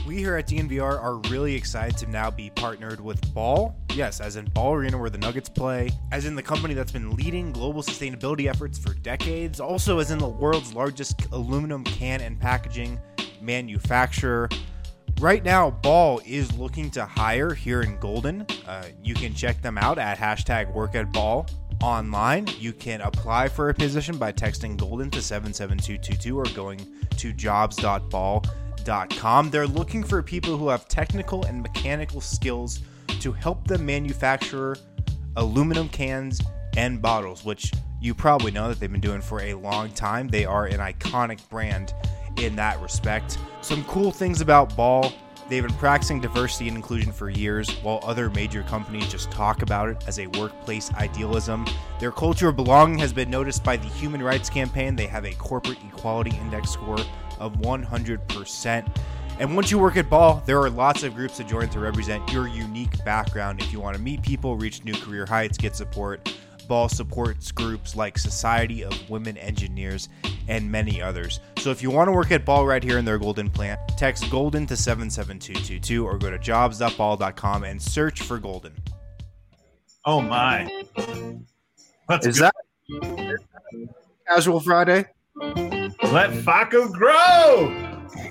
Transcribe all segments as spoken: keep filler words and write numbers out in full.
We here at D N V R are really excited to now be partnered with Ball. Yes, as in Ball Arena where the Nuggets play, as in the company that's been leading global sustainability efforts for decades, also as in the world's largest aluminum can and packaging manufacturer. Right now, Ball is looking to hire here in Golden. Uh, you can check them out at hashtag work at Ball online. You can apply for a position by texting Golden to seven seven two two two or going to jobs dot ball dot com. They're looking for people who have technical and mechanical skills to help them manufacture aluminum cans and bottles, which you probably know that they've been doing for a long time. They are an iconic brand in that respect. Some cool things about Ball: they've been practicing diversity and inclusion for years, while other major companies just talk about it as a workplace idealism. Their culture of belonging has been noticed by the Human Rights Campaign. They have a corporate equality index score of one hundred percent. And once you work at Ball, there are lots of groups to join to represent your unique background. If you want to meet people, reach new career heights, get support, Ball supports groups like Society of Women Engineers and many others. So if you want to work at Ball right here in their Golden plant, text Golden to seven seven two two two or go to jobs dot ball dot com and search for Golden. Oh my. Let's Is go. that Casual Friday? Let Faco grow.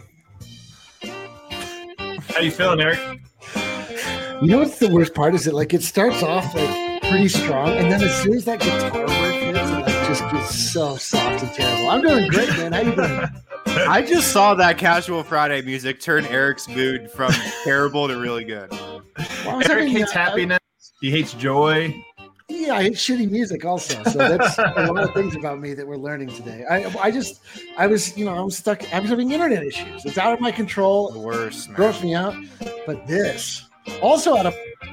How you feeling, Eric? You know what's the worst part is that like it starts off like pretty strong, and then as soon as that guitar work hits, it like just gets so soft and terrible. I'm doing great, man. How you doing? I just saw that Casual Friday music turn Eric's mood from terrible to really good. Well, I Eric was having, hates uh, happiness. He hates joy. Yeah, I hate shitty music also. So that's one of the things about me that we're learning today. I I just I was you know I was stuck. I was having internet issues. It's out of my control. The worst, man. Grossed me out. But this also out of.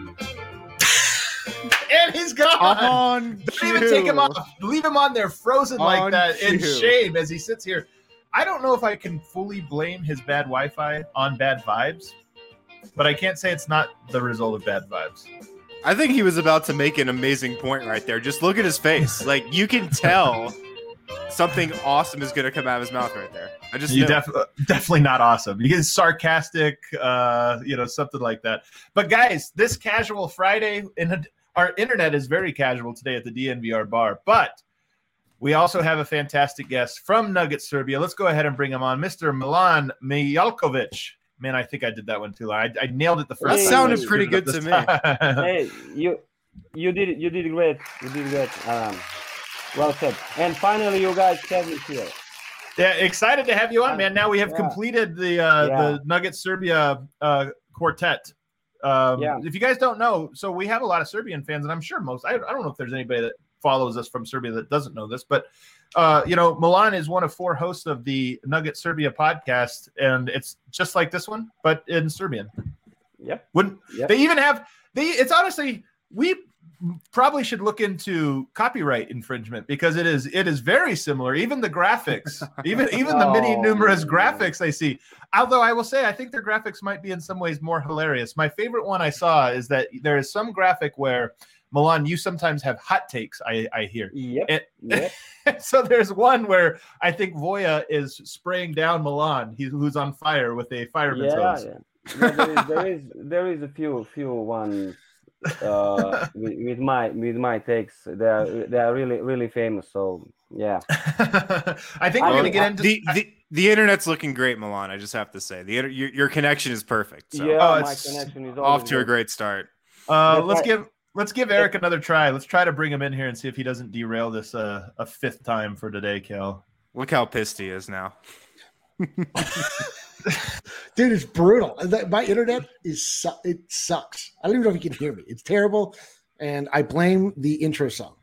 And he's gone. On Don't even take him off. Leave him on there frozen like On that in cue. shame as he sits here. I don't know if I can fully blame his bad Wi-Fi on bad vibes, but I can't say it's not the result of bad vibes. I think he was about to make an amazing point right there. Just look at his face. Like, you can tell something awesome is going to come out of his mouth right there. I just You knew. def- definitely not awesome. You get sarcastic, uh, you know, something like that. But guys, this Casual Friday, in our internet is very casual today at the D N V R bar. But we also have a fantastic guest from Nugget Serbia. Let's go ahead and bring him on, Mister Milan Mijalkovic. Man, I think I did that one too loud. I, I nailed it the first That time. sounded I pretty screwed it good up to this time. Hey, you you did it. You did great. You did great. Um, well said. And finally, you guys have me here. Yeah, excited to have you on, man. Now we have Yeah. completed the uh, Yeah. the Nugget Serbia uh, quartet. Um, Yeah. If you guys don't know, so we have a lot of Serbian fans, and I'm sure most. I, I don't know if there's anybody that follows us from Serbia that doesn't know this, but uh, you know, Milan is one of four hosts of the Nugget Serbia podcast, and it's just like this one, but in Serbian. Yep. Wouldn't Yep. they even have? They it's honestly we probably should look into copyright infringement because it is it is very similar. Even the graphics, even even the many Oh, numerous man. graphics I see. Although I will say I think their graphics might be in some ways more hilarious. My favorite one I saw is that there is some graphic where Milan, you sometimes have hot takes. I I hear. Yep. It- Yep. So there's one where I think Voya is spraying down Milan, he, who's on fire with a fireman's Yeah, hose. yeah. Yeah, there is there is there is a few few ones uh, with, with my with my takes. They are they are really really famous. So yeah. I think we're I going to mean, get into The, the the internet's looking great, Milan. I just have to say the inter- your, your connection is perfect. So Yeah, Oh, my it's connection is off always to a good. great start. Uh, That's let's right. give let's give Eric another try. Let's try to bring him in here and see if he doesn't derail this uh, a fifth time for today, Kel. Look how pissed he is now. Dude, it's brutal. That- My internet is su- it sucks. I don't even know if you can hear me. It's terrible, and I blame the intro song.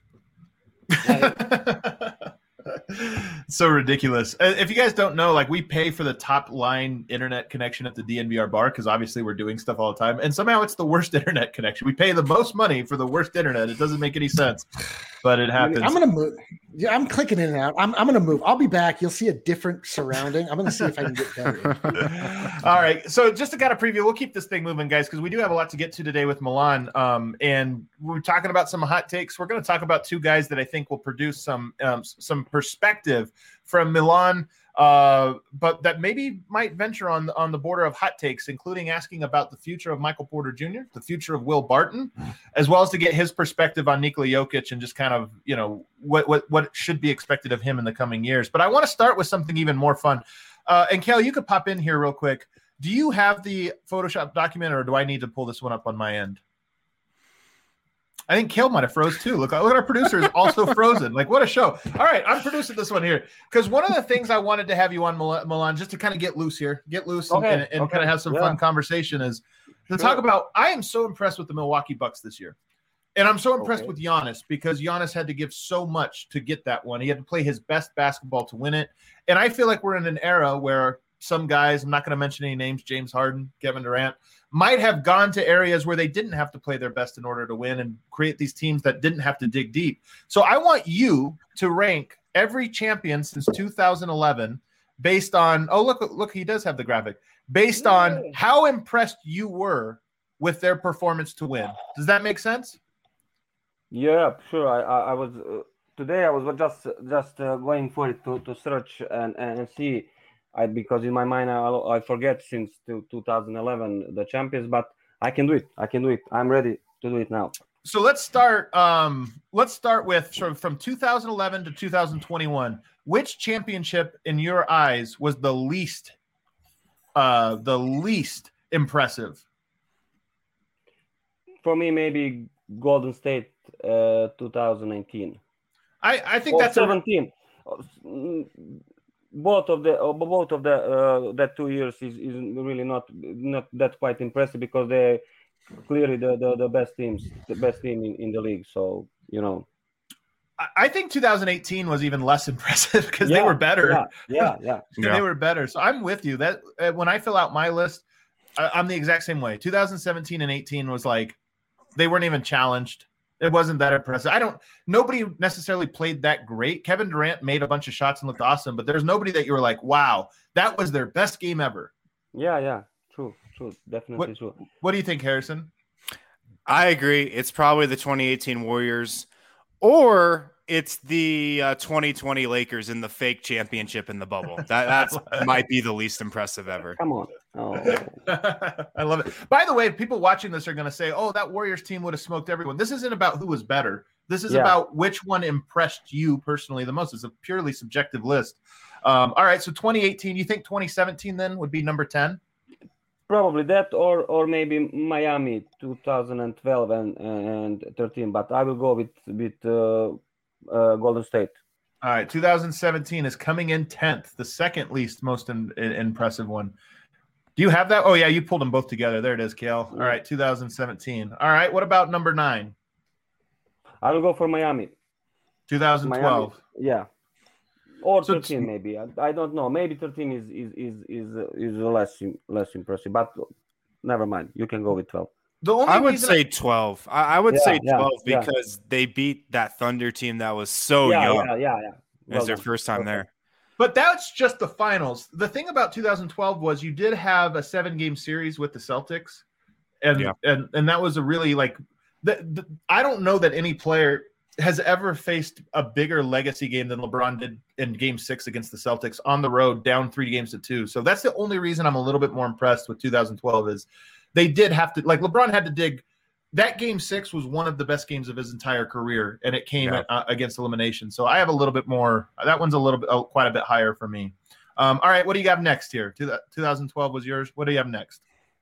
So ridiculous. Uh, If you guys don't know, like we pay for the top line internet connection at the D N V R bar because obviously we're doing stuff all the time, and somehow it's the worst internet connection. We pay the most money for the worst internet. It doesn't make any sense, but it happens. I'm gonna move. Yeah, I'm clicking in and out. I'm, I'm gonna move. I'll be back. You'll see a different surrounding. I'm gonna see if I can get better. All right. So just to kind of preview, we'll keep this thing moving, guys, because we do have a lot to get to today with Milan. Um, and we're talking about some hot takes. We're going to talk about two guys that I think will produce some um, some perspective from Milan. uh, but that maybe might venture on on the border of hot takes, including asking about the future of Michael Porter Junior, the future of Will Barton, as well as to get his perspective on Nikola Jokic and just kind of, you know, what what what should be expected of him in the coming years. But I want to start with something even more fun. Uh, and Kale, you could pop in here real quick. Do you have the Photoshop document, or do I need to pull this one up on my end? I think Kale might have froze too. Look, look at our producer is also frozen. Like, what a show. All right, I'm producing this one here because one of the things I wanted to have you on, Mil- Milan, just to kind of get loose here, get loose and, Okay, and, and okay, kind of have some yeah. fun conversation is to Sure. talk about, I am so impressed with the Milwaukee Bucks this year. And I'm so impressed Okay. with Giannis because Giannis had to give so much to get that one. He had to play his best basketball to win it. And I feel like we're in an era where some guys, I'm not going to mention any names, James Harden, Kevin Durant, might have gone to areas where they didn't have to play their best in order to win and create these teams that didn't have to dig deep. So I want you to rank every champion since two thousand eleven based on, oh, look, look, he does have the graphic, based on how impressed you were with their performance to win. Does that make sense? Yeah, sure. I I, I was uh, today. I was just just uh, going for it to, to search and, and and see. I because in my mind I I forget since to two thousand eleven the champions, but I can do it. I can do it. I'm ready to do it now. So let's start. Um, let's start with sort of from two thousand eleven to two thousand twenty-one. Which championship, in your eyes, was the least, uh, the least impressive? For me, maybe Golden State, uh, twenty nineteen. I, I think Or that's a, seventeen. Mm, Both of the uh, both of the uh, that two years is, is really not not that quite impressive because they clearly the, the, the best teams, the best team in, in the league. So you know. I think two thousand eighteen was even less impressive because Yeah, they were better. Yeah, yeah, yeah. Yeah. They were better. So I'm with you. That uh, when I fill out my list, I, I'm the exact same way. two thousand seventeen and eighteen was like they weren't even challenged. It wasn't that impressive. I don't. Nobody necessarily played that great. Kevin Durant made a bunch of shots and looked awesome, but there's nobody that you were like, wow, that was their best game ever. Yeah, yeah. True, true. Definitely What- true. What do you think, Harrison? I agree. It's probably the twenty eighteen Warriors, or it's the uh, twenty twenty Lakers in the fake championship in the bubble. That that's might be the least impressive ever. Come on. Oh. I love it. By the way, people watching this are going to say, oh, that Warriors team would have smoked everyone. This isn't about who was better. This is Yeah. about which one impressed you personally the most. It's a purely subjective list. Um, all right, so twenty eighteen, you think twenty seventeen then would be number ten? Probably that, or or maybe Miami, two thousand twelve and and thirteen. But I will go with with uh, uh, Golden State. All right, two thousand seventeen is coming in tenth, the second least most in, in, impressive one. Do you have that? Oh, yeah, you pulled them both together. There it is, Kale. All right, two thousand seventeen. All right, what about number nine? I will go for Miami. two thousand twelve. Miami, yeah, or So it's- thirteen maybe. I, I don't know. Maybe thirteen is is is is, uh, is less im- less impressive. But never mind. You can go with twelve. The only I would reason say twelve. I, I would Yeah, say yeah, twelve yeah. because they beat that Thunder team that was so yeah, young. yeah, yeah, yeah. It Well was their done. first time Okay. there. But that's just the finals. The thing about two thousand twelve was you did have a seven game series with the Celtics. And Yeah. and, and that was a really like the, the, I don't know that any player has ever faced a bigger legacy game than LeBron did in game six against the Celtics on the road, down three games to two. So that's the only reason I'm a little bit more impressed with two thousand twelve is they did have to, like LeBron had to dig. That game six was one of the best games of his entire career, and it came Yeah. uh, against elimination. So I have a little bit more. That one's a little bit, oh, quite a bit higher for me. Um, all right, what do you have next here? Two- twenty twelve was yours. What do you have next?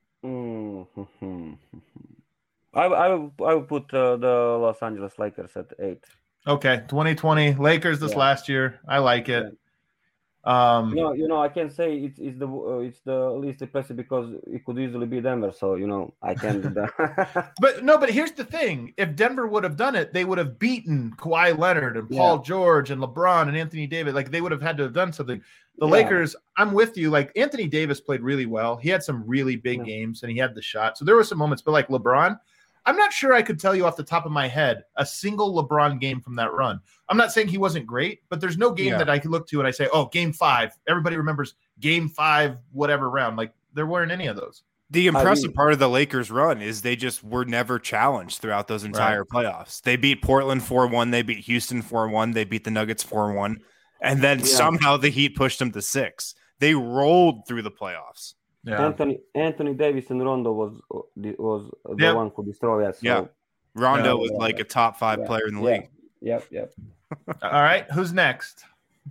Mhm. I I will I will put uh, the Los Angeles Lakers at eight. Okay, twenty twenty Lakers this Yeah. last year. I like it. Um, You know, you know, I can say it's it's the uh, it's the least impressive because it could easily be Denver. So you know, I can do that. But no, but here's the thing: if Denver would have done it, they would have beaten Kawhi Leonard and Paul Yeah. George and LeBron and Anthony Davis. Like they would have had to have done something. The Yeah. Lakers, I'm with you. Like Anthony Davis played really well. He had some really big Yeah. games and he had the shot. So there were some moments. But like LeBron, I'm not sure I could tell you off the top of my head a single LeBron game from that run. I'm not saying he wasn't great, but there's no game Yeah. that I could look to and I say, oh, game five. Everybody remembers game five, whatever round. Like there weren't any of those. The impressive mean- part of the Lakers run is they just were never challenged throughout those entire playoffs. They beat Portland four one, they beat Houston four one, they beat the Nuggets four one, And then Yeah. somehow the Heat pushed them to six. They rolled through the playoffs. Yeah. Anthony Anthony Davis and Rondo was was the Yep. one who destroyed us. So, Yeah. Rondo Yeah. was like a top five Yeah. player in the yeah, league. Yep, yep. All right. Who's next?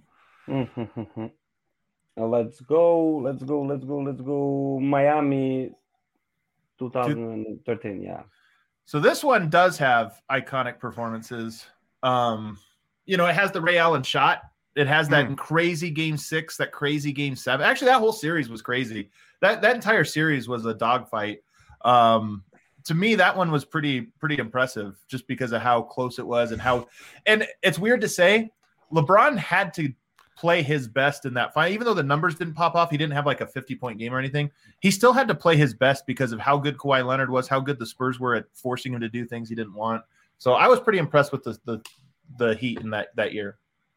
Uh, let's go, let's go, let's go, let's go. Miami, twenty thirteen. Yeah. So this one does have iconic performances. Um, you know, it has the Ray Allen shot. It has that Mm. crazy game six, that crazy game seven. Actually, that whole series was crazy. That that entire series was a dogfight. Um, to me, that one was pretty pretty impressive, just because of how close it was and how. And it's weird to say, LeBron had to play his best in that fight, even though the numbers didn't pop off. He didn't have like a fifty point game or anything. He still had to play his best because of how good Kawhi Leonard was, how good the Spurs were at forcing him to do things he didn't want. So I was pretty impressed with the the, the Heat in that that year.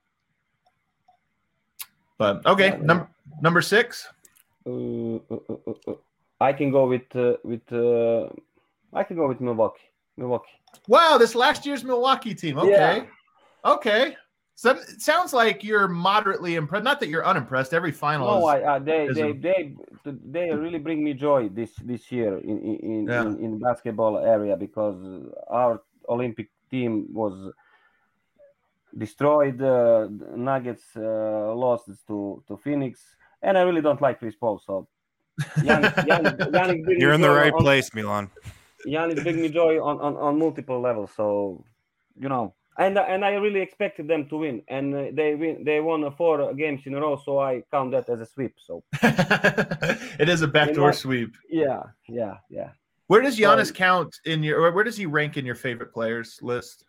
But okay, Yeah, number number six. Uh, uh, uh, uh, uh. I can go with uh, with uh, I can go with Milwaukee. Milwaukee. Wow, this last year's Milwaukee team. Okay, Yeah. okay. So it sounds like you're moderately impressed. Not that you're unimpressed. Every final. No, is, I, uh, they, is they, a- they, they really bring me joy this this year in in in, Yeah. in, in basketball area, because our Olympic team was destroyed. Uh, the Nuggets uh, lost to to Phoenix, and I really don't like Chris Paul. So Giannis, Giannis, Giannis bring You're me in the joy right on, place, Milan. Giannis bring me joy on, on, on multiple levels. So you know. And and I really expected them to win, and uh, they win. They won uh, four games in a row, so I count that as a sweep. So it is a backdoor know- sweep. yeah, yeah, yeah. Where does Giannis So- count in your? Or where does he rank in your favorite players list?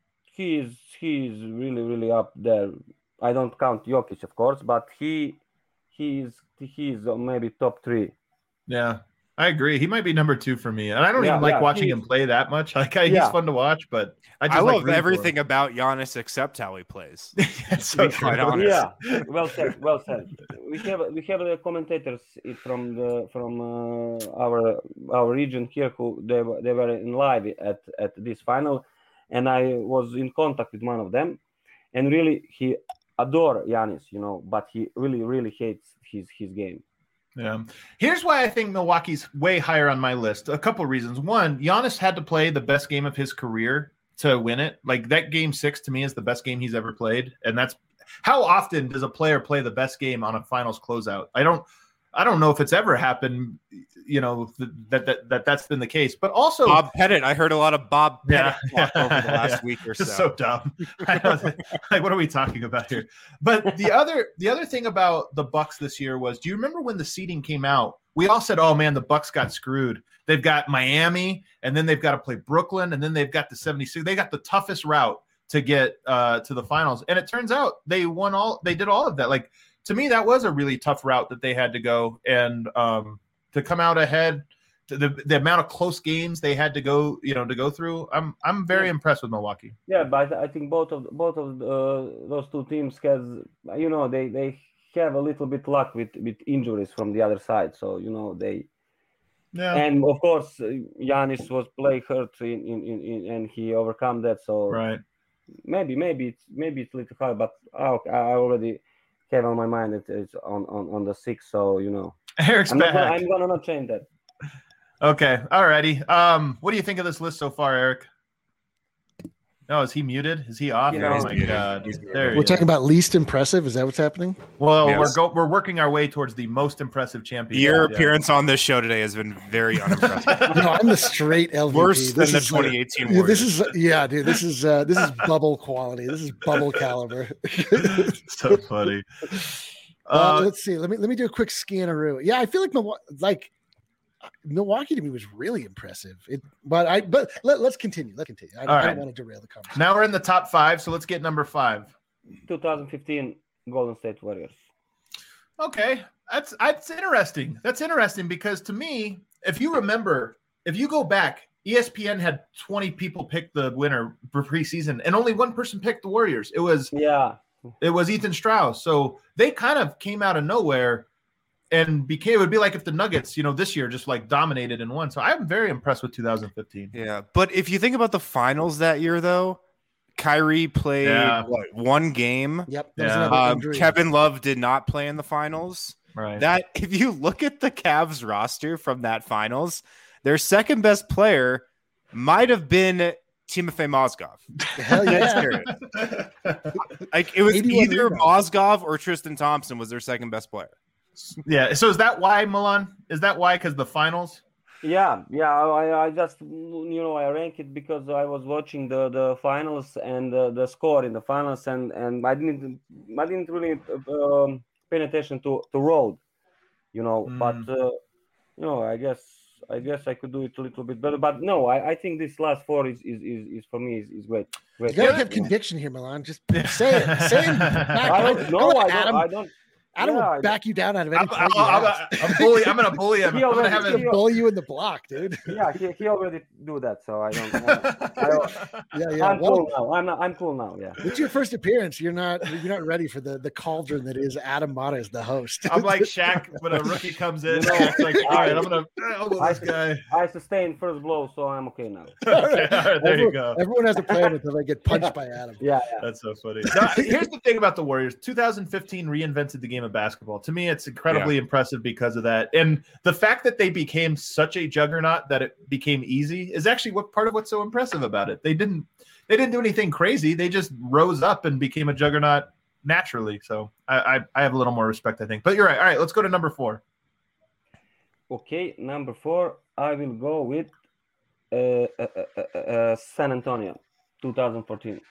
He is he is really really up there. I don't count Jokic, of course, but he he is he is uh, maybe top three. Yeah, I agree. He might be number two for me, and I don't Yeah, even like yeah, watching he's- him play that much. Like I, he's Yeah. fun to watch, but I I, just like love rooting for everything about Giannis except how he plays. him. It's so to be quite true. honest. Yeah, well said, well said. We have we have the commentators from the from uh, our our region here who they were they were in live at at this final, and I was in contact with one of them, and really he adore Giannis, you know, but he really really hates his his game. Yeah. Here's why I think Milwaukee's way higher on my list. A couple reasons. One, Giannis had to play the best game of his career to win it. Like that game six to me is the best game he's ever played. And that's how often does a player play the best game on a finals closeout? I don't I don't know if it's ever happened, you know, that that, that that's been the case. But also Bob Pettit. I heard a lot of Bob Pettit Yeah. talk over the last Yeah. week or just so. so dumb. I know, like, what are we talking about here? But the other the other thing about the Bucks this year was, do you remember when the seeding came out? We all said, "Oh man, the Bucks got screwed. They've got Miami, and then they've got to play Brooklyn, and then they've got the seventy-six. They got the toughest route to get uh, to the finals." And it turns out they won all. They did all of that. Like to me, that was a really tough route that they had to go, and um, to come out ahead. The, the amount of close games they had to go, you know, to go through. I'm I'm very Yeah. impressed with Milwaukee. Yeah, but I think both of both of uh, those two teams has, you know, they they have a little bit luck with with injuries from the other side. So you know they, Yeah, and of course uh, Giannis was play hurt in, in, in, in and he overcome that. So right. maybe maybe it's maybe it's a little hard, but I, I already have on my mind that it's on, on, on the six. So you know, Eric's I'm not gonna, back. I'm gonna not change that. Okay, alrighty. Um, what do you think of this list so far, Eric? No, is he muted? Is he off? Yeah, oh he's my muted. god, He's muted. there he We're is. talking about least impressive. Is that what's happening? Well, Yes. we're go we're working our way towards the most impressive champion. Your Yeah. appearance on this show today has been very unimpressive. No, I'm the straight L V P. Worse than This the is like- twenty eighteen Yeah, Warriors. this is yeah, dude. This is uh, this is bubble quality. This is bubble caliber. So funny. Uh, Uh, let's see. Let me let me do a quick scanneroo. Yeah, I feel like Milwaukee, like Milwaukee to me was really impressive. It, but I but let, let's continue. Let's continue. I, don't- All I right. don't want to derail the conversation. now we're in the top five, so let's get number five. twenty fifteen Golden State Warriors. Okay, that's that's interesting. That's interesting because to me, if you remember, if you go back, E S P N had twenty people pick the winner for preseason, and only one person picked the Warriors. It was Yeah, it was Ethan Strauss. So they kind of came out of nowhere and became. It would be like if the Nuggets, you know, this year just like dominated and won. So I'm very impressed with two thousand fifteen. Yeah, but if you think about the finals that year, though, Kyrie played Yeah. what, one game. Yep. That was Yeah. another Um, injury. Kevin Love did not play in the finals. Right. That if you look at the Cavs roster from that finals, their second best player might have been Timofey Mozgov. Hell That's yeah. serious. Like it was eighty-one either rebounds. Mozgov or Tristan Thompson was their second best player. Yeah. So is that why, Milan? Is that why? Because the finals? Yeah, yeah. I, I just you know I rank it because I was watching the, the finals and the, the score in the finals, and, and I didn't I didn't really um, pay attention to to road, you know. Mm. But uh, you know, I guess I guess I could do it a little bit better. But no, I, I think this last four is is, is, is for me is, is great. Great. You gotta Yeah. have conviction here, Milan. Just say it. Say it. Back. I don't know. I Adam, don't. I don't. Adam yeah, I will back you down out of I'm, any I'm, point you I'm, ask. I'm, bully, I'm gonna bully him. He I'm gonna already- have He'll him. he- bully you in the block, dude. Yeah, he, he already do that, so I don't. Uh, I don't Yeah, yeah. I'm Well, cool now. I'm not, I'm cool now. Yeah. it's your first appearance. You're not you're not ready for the, the cauldron that is Adam Mata as the host. I'm like Shaq when a rookie comes in. You know, it's like, all right, I'm gonna elbow this guy. I sustained first blow, so I'm okay now. Okay, all right, there everyone, you go. Everyone has a plan until they get punched by Adam. Yeah, yeah. That's so funny. Now, here's the thing about the Warriors. two thousand fifteen reinvented the game of basketball. To me, it's incredibly impressive because of that. And the fact that they became such a juggernaut that it became easy is actually what part of what's so impressive about it. They didn't they didn't do anything crazy. They just rose up and became a juggernaut naturally. So I, I, I have a little more respect, I think. But you're right. All right, let's go to number four. Okay, number four, I will go with uh, uh, uh, uh, uh, San Antonio, twenty fourteen.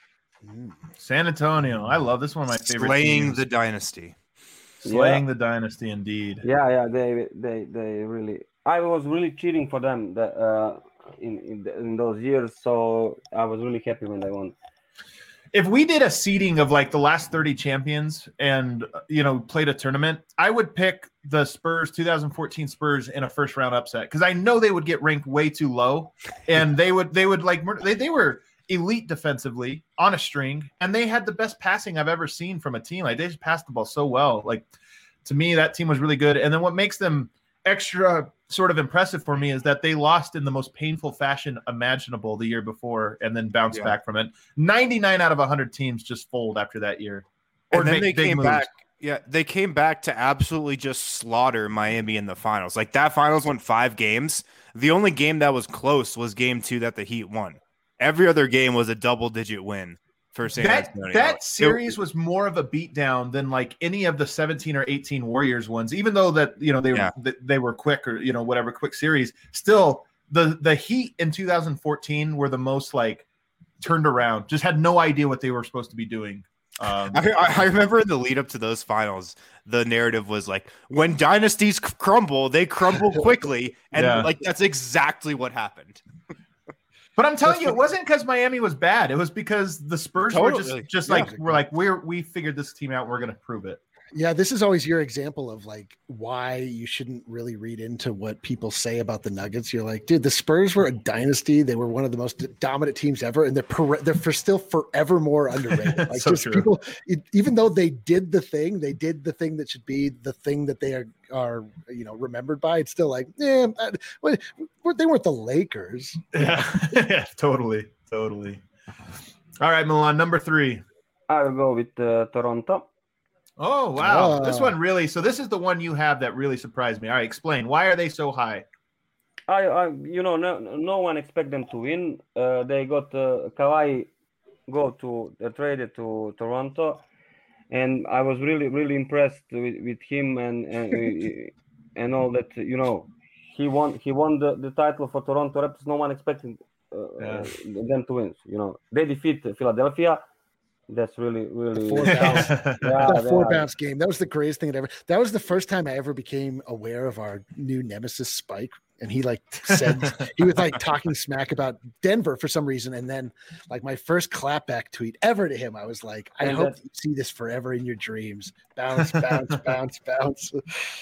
San Antonio. I love this one of my favorite Slaying teams. the dynasty. Slaying the dynasty indeed. Yeah, yeah, they, they, they really. I was really cheering for them that, uh, in in, the, in those years, so I was really happy when they won. If we did a seeding of like the last thirty champions and, you know, played a tournament, I would pick the Spurs, two thousand fourteen Spurs in a first round upset because I know they would get ranked way too low, and they would they would like they, they were elite defensively on a string, and they had the best passing I've ever seen from a team. Like they just passed the ball so well. Like to me, that team was really good. And then what makes them extra sort of impressive for me is that they lost in the most painful fashion imaginable the year before and then bounced Yeah. back from it. ninety-nine out of one hundred teams just fold after that year. And then make they big came moves. back. Yeah, they came back to absolutely just slaughter Miami in the finals. Like that finals went five games. The only game that was close was game two that the Heat won. Every other game was a double digit win for San That Antonio. that series was more of a beatdown than like any of the seventeen or eighteen Warriors ones. Even though that you know they Yeah. were they were quick or you know whatever quick series, still the the Heat in two thousand fourteen were the most like turned around. Just had no idea what they were supposed to be doing. Um, I, I remember in the lead up to those finals, the narrative was like, when dynasties c- crumble, they crumble quickly. And Yeah. like, that's exactly what happened. But I'm telling That's you, it what- wasn't because Miami was bad. It was because the Spurs were Totally. just just Yeah. like we're like we're we figured this team out. We're going to prove it. Yeah, this is always your example of like why you shouldn't really read into what people say about the Nuggets. You're like, dude, the Spurs were a dynasty. They were one of the most dominant teams ever, and they're per- they're for still forever more underrated. Like So just true. people, it, even though they did the thing, they did the thing that should be the thing that they are are you know remembered by. It's still like, yeah, uh, well, they weren't the Lakers. Yeah, yeah, totally, totally. All right, Milan, number three. I will go with uh, Toronto. Oh wow, Oh. this one really. So this is the one you have that really surprised me. All right, explain why are they so high? I, I you know, no, no one expect them to win. Uh, they got uh, Kawhi go to uh, traded to Toronto, and I was really, really impressed with, with him and and, and all that. You know, he won he won the, the title for Toronto Raptors. No one expected uh, Yeah. them to win. You know, they defeat Philadelphia. That's really, really Four bounce. yeah, that four yeah. bounce game. That was the greatest thing that ever. That was the first time I ever became aware of our new nemesis Spike. And he like said he was like talking smack about Denver for some reason. And then like my first clapback tweet ever to him, I was like, I And hope that- you see this forever in your dreams. Bounce, bounce, bounce, bounce.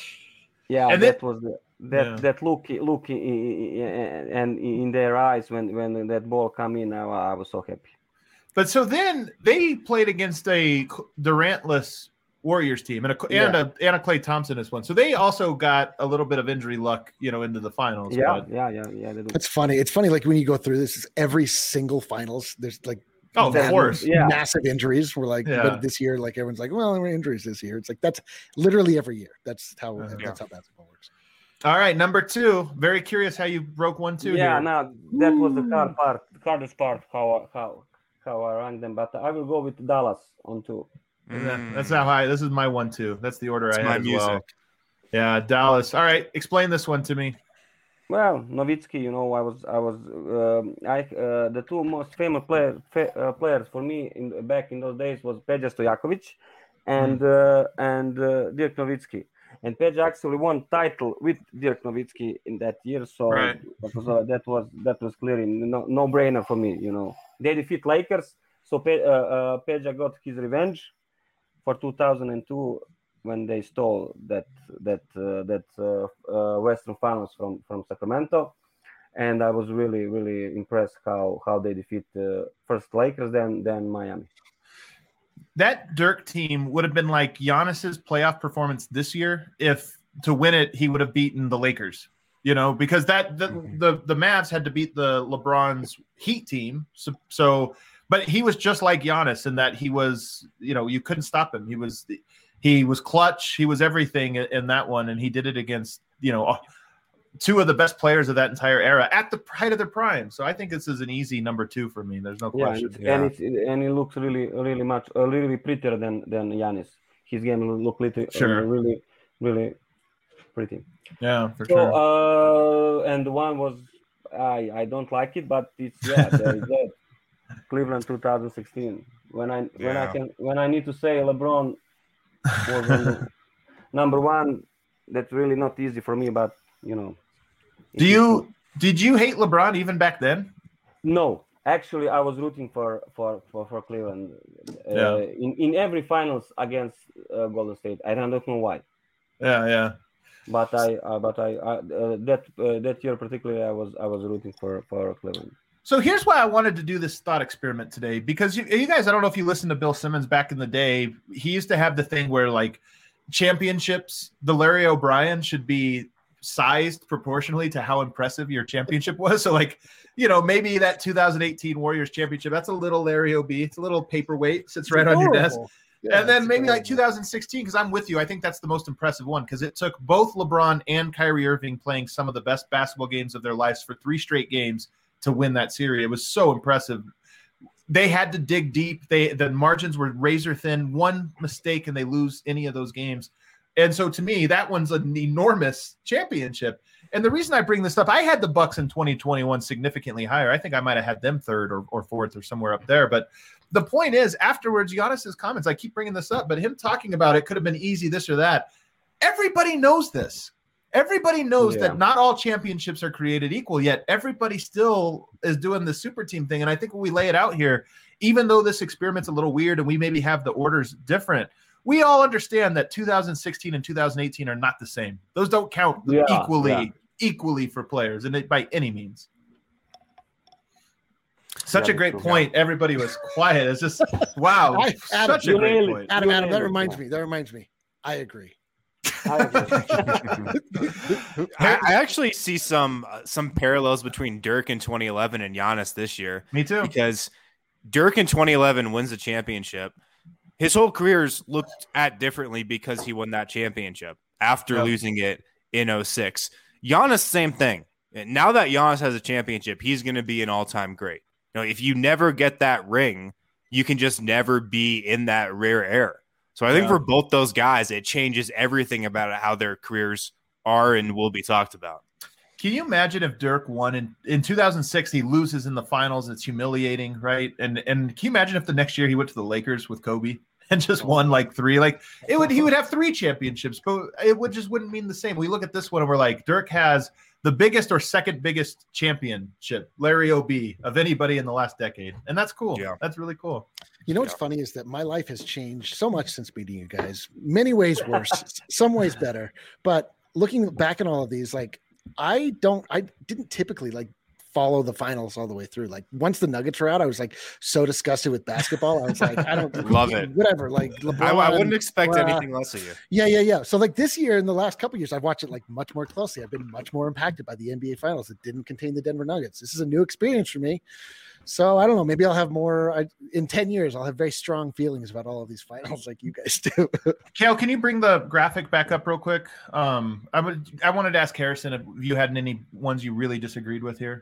Yeah, And that then- was the, that Yeah. that look look in, in, and in their eyes when when that ball come in. I, I was so happy. But so then they played against a Durantless Warriors team and a and Yeah. a and a Klay Thompson is one. So they also got a little bit of injury luck, you know, into the finals. Yeah, but- yeah, yeah, yeah. They do. It's funny. It's funny. Like when you go through this, every single finals, there's like Oh, of That- course. Yeah. massive injuries. We're like, Yeah. but this year, like everyone's like, well, there were injuries this year. It's like that's literally every year. That's how Uh, that's how basketball works. All right, number two. Very curious how you broke one two Yeah, here. no, that was the hard part, the hardest part how how how I ranked them. But I will go with Dallas on two. Yeah, that's how I. This is my one two. That's the order It's I my had as music. well. Yeah, Dallas. All right, explain this one to me. Well, Nowitzki, you know, I was I was um, I uh, the two most famous player, fa- uh, players for me in back in those days was Peja Stojakovic and uh, and uh, Dirk Nowitzki. And Peja actually won title with Dirk Nowitzki in that year, so Right. that was uh, that was that was clearly no no brainer for me. You know, they defeat Lakers, so Pe- uh, uh, Peja got his revenge for two thousand two when they stole that that uh, that uh, uh, Western Finals from from Sacramento, and I was really really impressed how how they defeat uh, first Lakers, then then Miami. That Dirk team would have been like Giannis's playoff performance this year if to win it he would have beaten the Lakers. You know, because that the the, the Mavs had to beat the LeBron's Heat team. So, so but he was just like Giannis in that he was, you know, you couldn't stop him. He was he was clutch. He was everything in that one, and he did it against, you know, two of the best players of that entire era at the height of their prime. So I think this is an easy number two for me. There's no Yeah, question. and, it's, Yeah. and it's and it looks really really much uh, really prettier than than Giannis. His game look little, Sure. uh, really really pretty. Yeah, for So sure. uh, and the one was I I don't like it, but it's yeah there is that Cleveland two thousand sixteen when I when I Yeah. can when I need to say LeBron was on the number one. That's really not easy for me, but you know. Do you did you hate LeBron even back then? No, actually, I was rooting for for for, for Cleveland uh, Yeah. in in every finals against uh, Golden State. I don't know why, Yeah, yeah. but I uh, but I uh, uh, that uh, that year particularly I was I was rooting for for Cleveland. So here's why I wanted to do this thought experiment today, because you, you guys, I don't know if you listened to Bill Simmons back in the day. He used to have the thing where like championships, the Larry O'Brien should be sized proportionally to how impressive your championship was. So like, you know, maybe that two thousand eighteen Warriors championship, that's a little Larry O B. It's a little paperweight, sits right on your desk. Adorable. Yeah, and then it's maybe like adorable. two thousand sixteen, because I'm with you. I think that's the most impressive one because it took both LeBron and Kyrie Irving playing some of the best basketball games of their lives for three straight games to win that series. It was so impressive. They had to dig deep. They the margins were razor thin. One mistake and they lose any of those games. And so to me, that one's an enormous championship. And the reason I bring this up, I had the Bucks in twenty twenty-one significantly higher. I think I might have had them third or, or fourth or somewhere up there. But the point is, afterwards, Giannis's comments, I keep bringing this up, but him talking about it could have been easy, this or that. Everybody knows this. Everybody knows Yeah. that not all championships are created equal, yet everybody still is doing the super team thing. And I think when we lay it out here, even though this experiment's a little weird and we maybe have the orders different, we all understand that two thousand sixteen and two thousand eighteen are not the same. Those don't count Yeah, equally, yeah. equally for players, and it, by any means. Such Yeah, a great that's point. Everybody was quiet. It's just wow, I- Adam, such a you great nailed it. point. Adam, You Adam, that nailed it. reminds me. That reminds me. I agree. I agree. I, I actually see some uh, some parallels between Dirk in twenty eleven and Giannis this year Me too. because Dirk in twenty eleven wins the championship. His whole career's looked at differently because he won that championship after Yep. losing it in oh six. Giannis, same thing. And now that Giannis has a championship, he's going to be an all-time great. You know, if you never get that ring, you can just never be in that rare air. So I think Yeah. for both those guys, it changes everything about how their careers are and will be talked about. Can you imagine if Dirk won in, in two thousand six? He loses in the finals. It's humiliating, right? And and can you imagine if the next year he went to the Lakers with Kobe and just won like three? Like it would, he would have three championships, but it would just wouldn't mean the same. We look at this one and we're like, Dirk has the biggest or second biggest championship, Larry O B, of anybody in the last decade, and that's cool. Yeah. That's really cool. You know what's funny is that my life has changed so much since meeting you guys. Many ways worse, s- some ways better. But looking back at all of these, like I don't, I didn't typically like follow the finals all the way through. Like once the Nuggets were out, I was like so disgusted with basketball. I was like, I don't love it. Whatever. Like LeBron, I, I wouldn't expect uh, anything less of you. Yeah, yeah, yeah. So like this year, in the last couple of years, I've watched it like much more closely. I've been much more impacted by the N B A Finals that didn't contain the Denver Nuggets. This is a new experience for me. So I don't know. Maybe I'll have more I, in ten years. I'll have very strong feelings about all of these finals, like you guys do. Kale, can you bring the graphic back up real quick? Um, I would. I wanted to ask Harrison if you had any ones you really disagreed with here.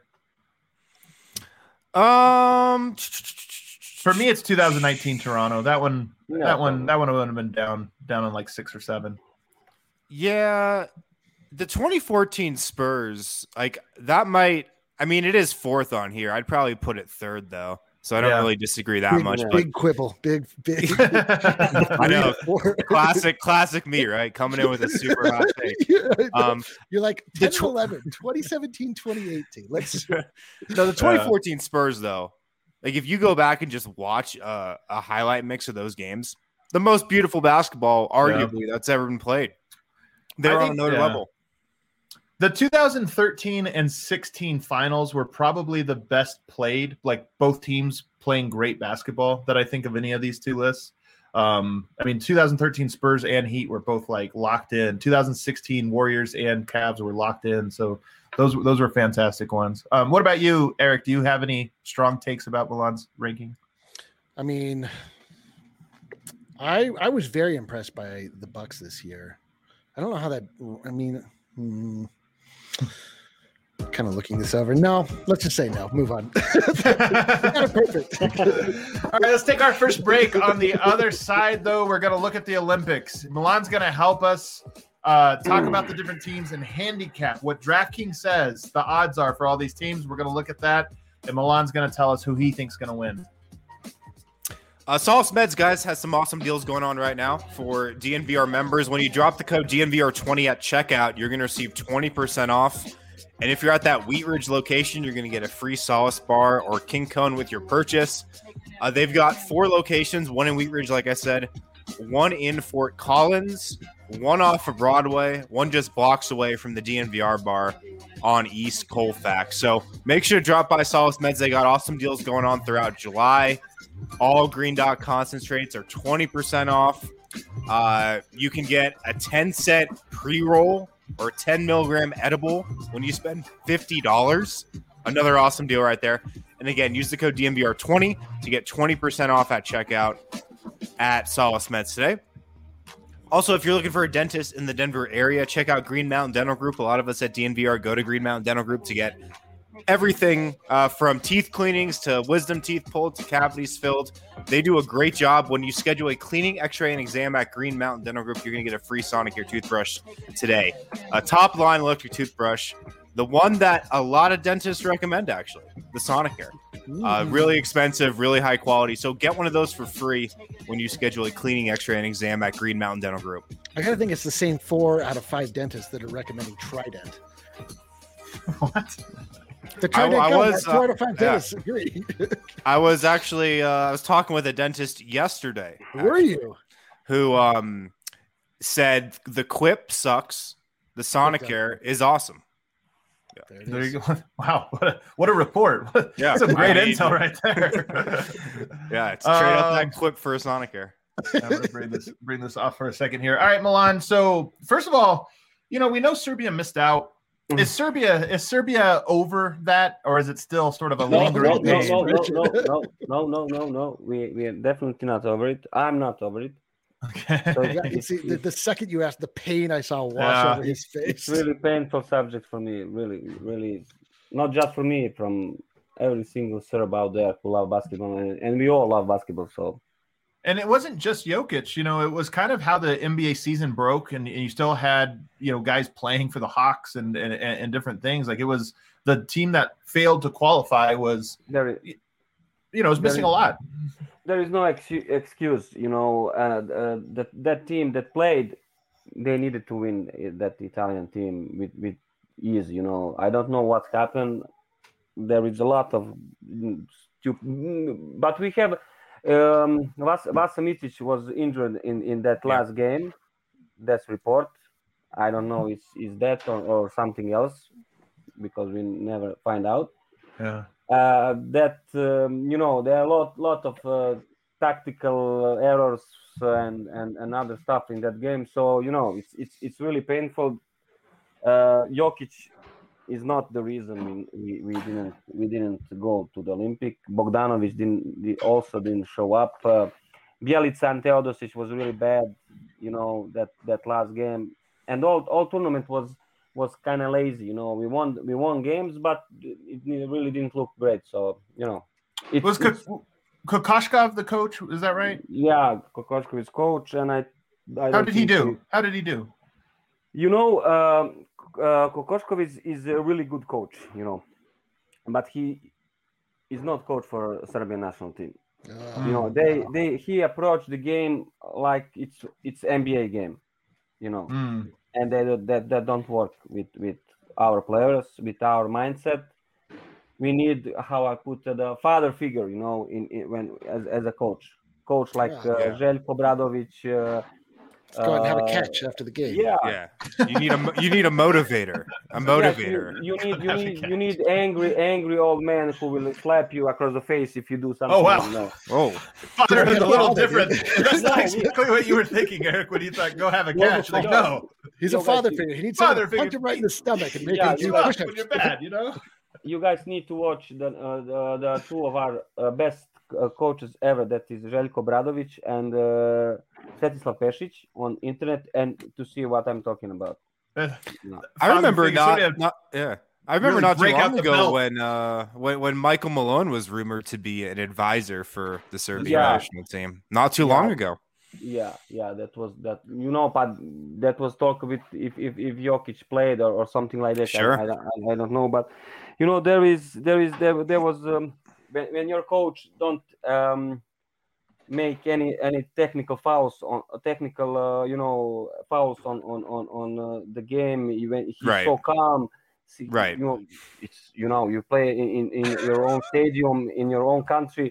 Um, for me, it's two thousand nineteen Toronto. That one. Yeah. That one. That one would have been down, down on like six or seven. Yeah, the twenty fourteen Spurs, like that might. I mean, it is fourth on here. I'd probably put it third though, so I don't Yeah. really disagree that big, much. Big But quibble, big, big. I know, classic, classic me, right? Coming in with a super hot take. Yeah, I know. Um, You're like the ten tw- eleven, twenty seventeen, twenty eighteen. Let's no, the twenty fourteen Spurs though. Like if you go back and just watch uh, a highlight mix of those games, the most beautiful basketball, arguably, yeah. that's ever been played. They're on another yeah. level. The two thousand thirteen and sixteen finals were probably the best played, like both teams playing great basketball that I think of any of these two lists. Um, I mean, two thousand thirteen Spurs and Heat were both like locked in. two thousand sixteen Warriors and Cavs were locked in. So those those were fantastic ones. Um, what about you, Eric? Do you have any strong takes about Milan's ranking? I mean, I I was very impressed by the Bucks this year. I don't know how that. I mean. Hmm, kind of looking this over. No, let's just say no. Move on. Kind of perfect. All right, let's take our first break. On the other side, though, we're going to look at the Olympics. Milan's going to help us uh, talk about the different teams and handicap what DraftKings says the odds are for all these teams. We're going to look at that, and Milan's going to tell us who he thinks is going to win. Uh, Solace Meds, guys, has some awesome deals going on right now for D N V R members. When you drop the code D N V R twenty at checkout, you're going to receive twenty percent off. And if you're at that Wheat Ridge location, you're going to get a free Solace bar or King Cone with your purchase. Uh, they've got four locations, one in Wheat Ridge, like I said, one in Fort Collins, one off of Broadway, one just blocks away from the D N V R bar on East Colfax. So make sure to drop by Solace Meds. They got awesome deals going on throughout July. All Green Dot concentrates are twenty percent off. Uh, you can get a ten set pre-roll or ten milligram edible when you spend fifty dollars. Another awesome deal right there. And again, use the code D N V R twenty to get twenty percent off at checkout at Solace Meds today. Also, if you're looking for a dentist in the Denver area, check out Green Mountain Dental Group. A lot of us at D N V R go to Green Mountain Dental Group to get everything uh, from teeth cleanings to wisdom teeth pulled to cavities filled. They do a great job. When you schedule a cleaning, x-ray, and exam at Green Mountain Dental Group, you're going to get a free Sonicare toothbrush today. A top line electric toothbrush, the one that a lot of dentists recommend, actually, the Sonicare. Uh, really expensive, really high quality. So get one of those for free when you schedule a cleaning, x-ray, and exam at Green Mountain Dental Group. I kind of think it's the same four out of five dentists that are recommending Trident. What? The Trident I, I was four uh, out of five yeah. dentists agree. I was actually uh, I was talking with a dentist yesterday. Were you? Who um said the Quip sucks. The Sonicare is awesome. There, there you go. Wow, what a, what a report. Yeah, that's some great I mean, intel right there. Yeah, it's straight um, up that Quip for a Sonicare. I'm gonna bring this bring this off for a second here. All right, Milan. So first of all, you know we know Serbia missed out. Is Serbia is Serbia over that, or is it still sort of a no, lingering? No, no, no, no, no, no, no, no, no. We we are definitely not over it. I'm not over it. Okay. So yeah, you see, the, the second you asked, the pain I saw wash Yeah. over his face. It's really painful subject for me. Really, really, not just for me, from every single Serb out there who love basketball, and, and we all love basketball. So. And it wasn't just Jokic, you know, it was kind of how the N B A season broke, and, and you still had, you know, guys playing for the Hawks and, and and different things. Like it was the team that failed to qualify was, There is, you know, was missing is, a lot. There is no ex- excuse, you know, uh, uh, that that team that played, they needed to win that Italian team with, with ease, you know. I don't know what happened. There is a lot of stupid, but we have. Um, Vas- Vasa Micic was injured in, in that last yeah. game. That's report. I don't know is is that or, or something else because we never find out. Yeah. Uh, that um, you know, there are a lot lot of uh, tactical errors and, and and other stuff in that game. So you know, it's it's it's really painful. Uh, Jokic is not the reason we, we, we didn't we didn't go to the Olympic. Bogdanovic didn't also didn't show up. Uh, Bjelica and Teodosic was really bad. You know, that, that last game, and all all tournament was was kind of lazy. You know, we won we won games, but it really didn't look great. So you know, it was Kokoshkov the coach? Is that right? Yeah, Kokoshkov is coach, and I. I How did he do? He, How did he do? You know, um, uh, Kokoshkov is, is a really good coach. You know, but he is not coach for Serbian national team. Oh, you know, they wow. they he approached the game like it's it's N B A game. You know. Mm. And they, that that don't work with, with our players, with our mindset. We need, how I put it, the father figure, you know, in, in when as, as a coach, coach like yeah, uh, yeah. Željko Obradović. Uh, Let's go out and have a catch after the game. Yeah, yeah. You need a you need a motivator, a motivator. Yes, you, you need you need you need angry angry old man who will slap you across the face if you do something. Oh wow! You know. Oh, father is a little different. That's not exactly what you were thinking, Eric, when you thought go have a catch. Like no, he's a father figure. He needs to punch him right in the stomach and make yeah, him do push-ups when you're bad. You know. You guys need to watch the uh, the, the two of our uh, best uh, coaches ever. That is Željko Obradović and uh, Svetislav Pešić on internet, and to see what I'm talking about. Uh, no. I remember not, have, not, yeah. I remember really not too long ago when, uh, when when Michael Malone was rumored to be an advisor for the Serbian yeah. national team. Not too yeah. long ago. Yeah, yeah, that was that. You know, but that was talk with if if, if Jokic played or, or something like that. Sure. I, I, I don't know, but you know, there is there is there there was um, when, when your coach don't um, make any any technical fouls on technical uh, you know fouls on on on on uh, the game. When he's right. so calm. See, right. You know, it's you know you play in, in your own stadium in your own country.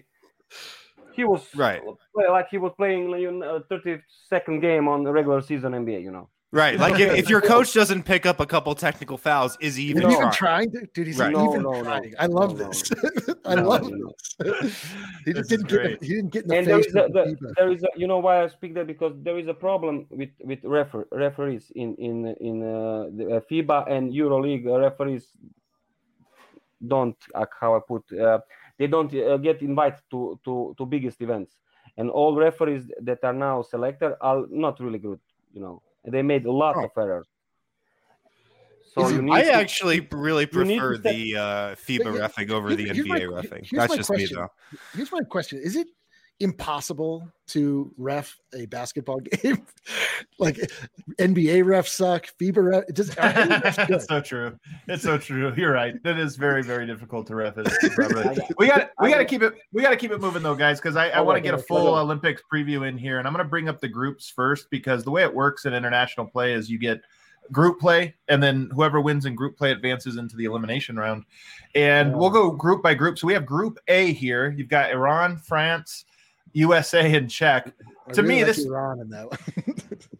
He was right, like he was playing a thirty-second game on the regular season N B A. You know, right? Like if, if your coach doesn't pick up a couple technical fouls, is he even, no. trying? even trying? Dude, he's right. no, even no, trying. No, I love no, this. No. I no, love no. this. He this didn't get. He didn't get in the and face. There is, a, the, there is a, you know why I speak that, because there is a problem with with refer, referees in in in uh, the FIBA and EuroLeague referees. Don't uh, how I put uh, they don't uh, get invited to, to, to biggest events, and all referees that are now selected are not really good. You know, they made a lot oh. of errors. So you need I to, actually really prefer set, the uh, FIBA yeah, refing over the N B A my, refing. That's just question. me, though. Here's my question: is it impossible to ref a basketball game? Like N B A refs suck, FIBA ref. It just it's so true. It's so true. You're right. It is very, very difficult to ref it. we got we got to keep it. We got to keep it moving though, guys, because I, I want to get a full Olympics preview in here, and I'm going to bring up the groups first, because the way it works in international play is you get group play, and then whoever wins in group play advances into the elimination round, and yeah. we'll go group by group. So we have Group A here. You've got Iran, France, U S A, and Czech. I to really me, like this Iran in that one.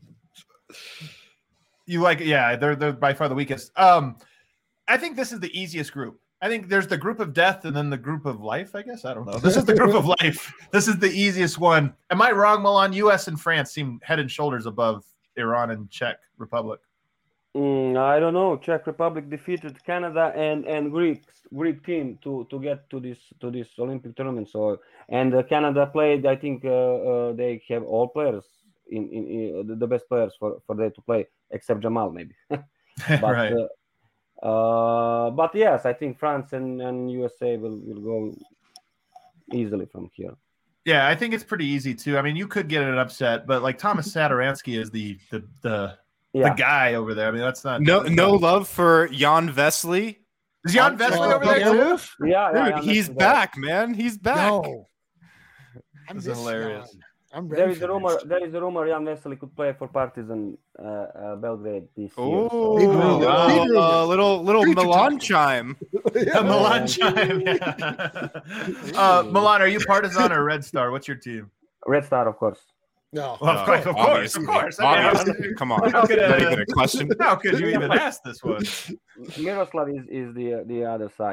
You like, yeah, they're they're by far the weakest. Um, I think this is the easiest group. I think there's the group of death and then the group of life. I guess I don't know. This is the group of life. This is the easiest one. Am I wrong, Milan? U S and France seem head and shoulders above Iran and Czech Republic. Mm, I don't know. Czech Republic defeated Canada and and Greek Greek team to to get to this to this Olympic tournament. So and uh, Canada played. I think uh, uh, they have all players in, in, in the best players for for them to play, except Jamal maybe. but right. uh, uh, but yes, I think France and, and U S A will, will go easily from here. Yeah, I think it's pretty easy too. I mean, you could get an upset, but like Thomas Satoransky is the the the Yeah. the guy over there. I mean, that's not no that's no not... love for Jan Vesely. Is Jan Vesely over there too? Yeah, Dude, yeah, he's back, there. man. He's back. No. I'm hilarious. Jan. I'm there is a rumor. This. There is a rumor Jan Vesely could play for Partizan uh, uh, Belgrade this oh, year. So. Oh, wow. uh, little little Future Milan time. chime. yeah, Milan chime. Yeah. uh, Milan, are you Partizan or Red Star? What's your team? Red Star, of course. No, well, of course, of course, of course. I mean, come on, how could, not even a question. How could you even ask this one? Miroslav is, is the the other side.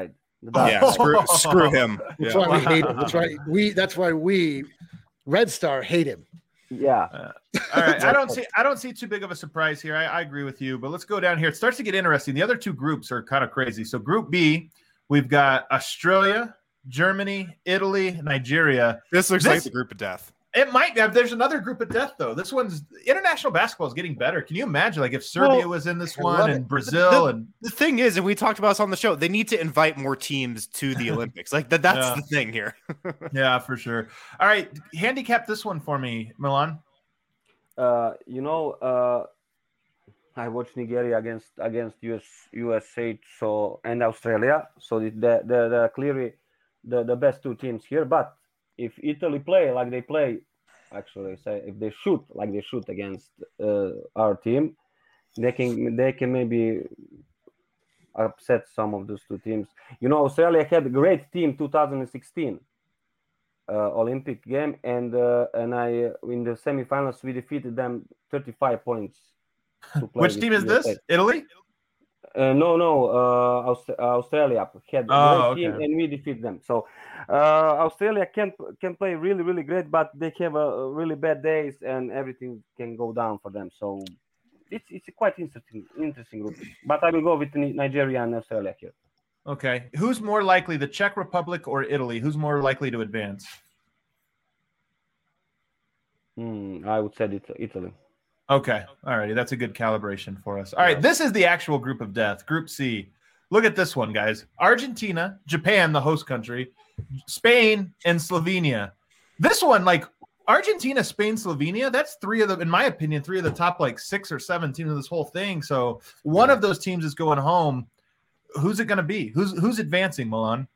The Dutch. Yeah, screw, screw him. That's Yeah. why we hate him. That's why we. That's why we, Red Star, hate him. Yeah. Uh, all right, I don't see I don't see too big of a surprise here. I, I agree with you, but let's go down here. It starts to get interesting. The other two groups are kind of crazy. So Group B, we've got Australia, Germany, Italy, Nigeria. This looks This- like the group of death. It might have. There's another group of death though. This one's international basketball is getting better. Can you imagine, like if Serbia Well, was in this I one love and it. Brazil The- and The thing is, and we talked about this on the show, they need to invite more teams to the Olympics. Like that, that's Yeah. the thing here. yeah, for sure. All right, handicap this one for me, Milan. Uh, you know, uh, I watched Nigeria against against U S U S A so and Australia. So the the the, the clearly the, the best two teams here. But if Italy play like they play, actually, say if they shoot like they shoot against uh, our team, they can they can maybe upset some of those two teams. You know, Australia had a great team two thousand sixteen. Uh, Olympic game, and uh, and I uh, in the semifinals we defeated them thirty-five points. to play Which with team is U S A. this? Italy? Uh, no, no, uh, Aust- Australia had a Oh, great team, okay. and we defeat them. So uh, Australia can can play really really great, but they have a, a really bad days, and everything can go down for them. So it's it's a quite interesting interesting group. But I will go with Ni- Nigeria and Australia here. Okay. Who's more likely, the Czech Republic or Italy? Who's more likely to advance? Hmm, I would say it, Italy. Okay. All righty. That's a good calibration for us. All right. This is the actual group of death, Group C. Look at this one, guys. Argentina, Japan, the host country, Spain, and Slovenia. This one, like Argentina, Spain, Slovenia, that's three of the, in my opinion, three of the top like six or seven teams of this whole thing. So one of those teams is going home. Who's it going to be? Who's who's advancing, Milan?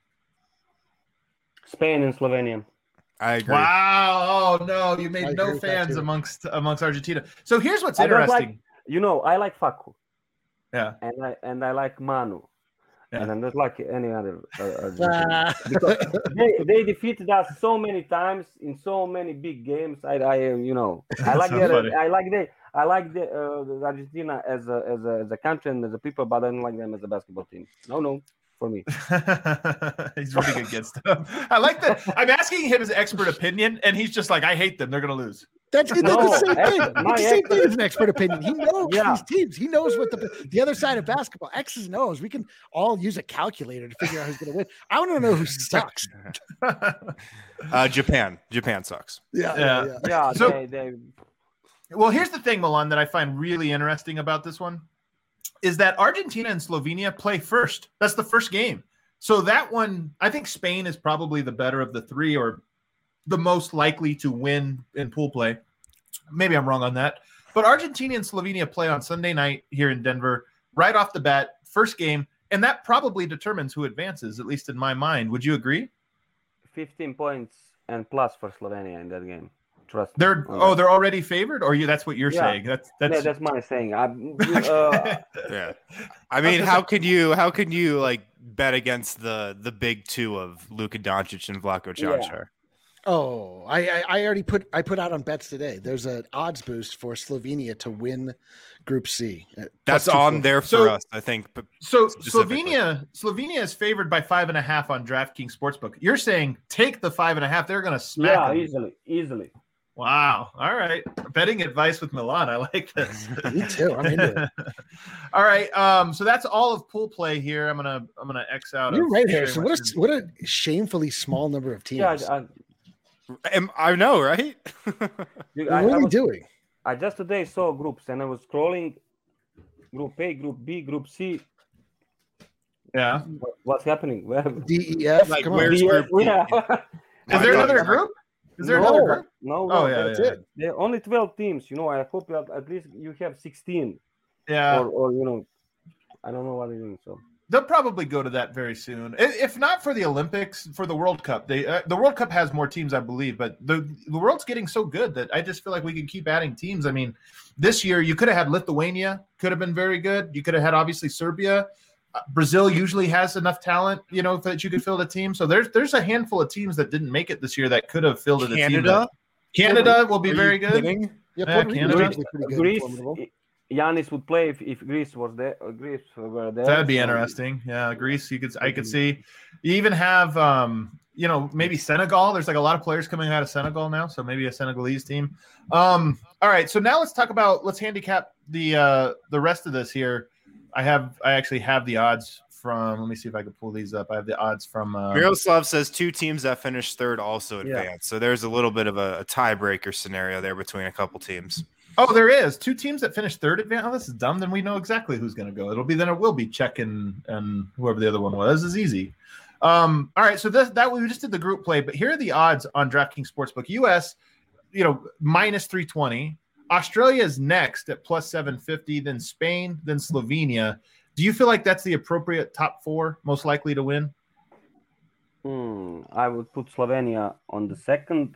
Spain and Slovenia. I agree. Wow! Oh no, you I made agree no with that, fans too. amongst amongst Argentina. So here's what's I don't interesting. like- You know, I like Facu, Yeah, and I and I like Manu, Yeah. and I don't like any other. Uh, Argentinian. Ah. Because they, they defeated us so many times in so many big games. I, I uh, you know, I like so the, funny. I like the, I like the, uh, the Argentina as a, as a as a country and as a people, but I don't like them as a basketball team. No, no, for me. he's running against them. I like that. I'm asking him his expert opinion, and he's just like, "I hate them. They're gonna lose." That's, that's No, the same thing. X- my It's the same X- thing as an expert opinion. He knows Yeah. these teams. He knows what the the other side of basketball. X's and O's. We can all use a calculator to figure out who's going to win. I want to know who sucks. Uh, Japan. Japan sucks. Yeah, Yeah. yeah. Yeah, So- they, they Well, here's the thing, Milan, that I find really interesting about this one is that Argentina and Slovenia play first. That's the first game. So that one, I think Spain is probably the better of the three, or the most likely to win in pool play. Maybe I'm wrong on that. But Argentina and Slovenia play on Sunday night here in Denver, right off the bat, first game, and that probably determines who advances, at least in my mind. Would you agree? fifteen points and plus for Slovenia in that game. Trust me They're on oh, that. they're already favored, or you? That's what you're Yeah. saying. That's that's. Yeah, that's my saying. I, uh, Yeah. I mean, how could you how could you like bet against the the big two of Luka Doncic and Vlatko Yeah. Čančar? Oh, I, I I already put I put out on bets today. There's an odds boost for Slovenia to win Group C. Uh, That's plus two on forty. there for So- us, I think. But So Specifically. Slovenia, Slovenia is favored by five and a half on DraftKings Sportsbook. You're saying take the five and a half. They're going to smack yeah, them. easily, easily. Wow. All right. Betting advice with Milan. I like this. Me too. I'm into it. All right. Um. So that's all of pool play here. I'm gonna I'm gonna X out. You're of right, sharing Harrison. my What a screen. what a shamefully small number of teams. Yeah, I, I, Am- I know, right? you- what I, are I we was- doing? I just today saw groups and I was scrolling Group A, Group B, Group C. Yeah. What, what's happening? Where? D E F. Like, Come where's- on. Group B? Yeah. Is there No, another no. group? Is there No. another group? No, no, Oh yeah. That's yeah. it. there are only twelve teams. You know, I hope you have, at least you have sixteen, Yeah. or, or you know, I don't know what they're doing. So They'll probably go to that very soon. I- If not for the Olympics, for the World Cup. They uh, the World Cup has more teams, I believe, but the the world's getting so good that I just feel like we can keep adding teams. I mean, this year you could have had Lithuania, could have been very good. You could have had obviously Serbia. Uh, Brazil usually has enough talent, you know, that you could fill the team. So there's there's a handful of teams that didn't make it this year that could have filled it. Canada? Canada will be Are very you good. kidding? Yeah, Yeah, Puerto Rico's Canada. usually pretty good and Greece, formidable. i- Giannis would play if, if Greece was there. Uh, Greece were there. That'd be so- interesting. Yeah, Greece. You could. I could see. You even have, um, you know, maybe Senegal. There's like a lot of players coming out of Senegal now, so maybe a Senegalese team. Um, all right. So now let's talk about. Let's handicap the uh, the rest of this here. I have. I actually have the odds from. Let me see if I can pull these up. I have the odds from. Uh, Miroslav says two teams that finished third also Yeah. advanced. So there's a little bit of a, a tiebreaker scenario there between a couple teams. Oh, there is two teams that finished third advance. Oh, this is dumb. Then we know exactly who's going to go. It'll be then it will be Czech and, and whoever the other one was. This is easy. Um, all right, so this, that we just did the group play, but here are the odds on DraftKings Sportsbook. U S, you know, minus three twenty. Australia is next at plus seven fifty. Then Spain, then Slovenia. Do you feel like that's the appropriate top four most likely to win? Hmm, I would put Slovenia on the second.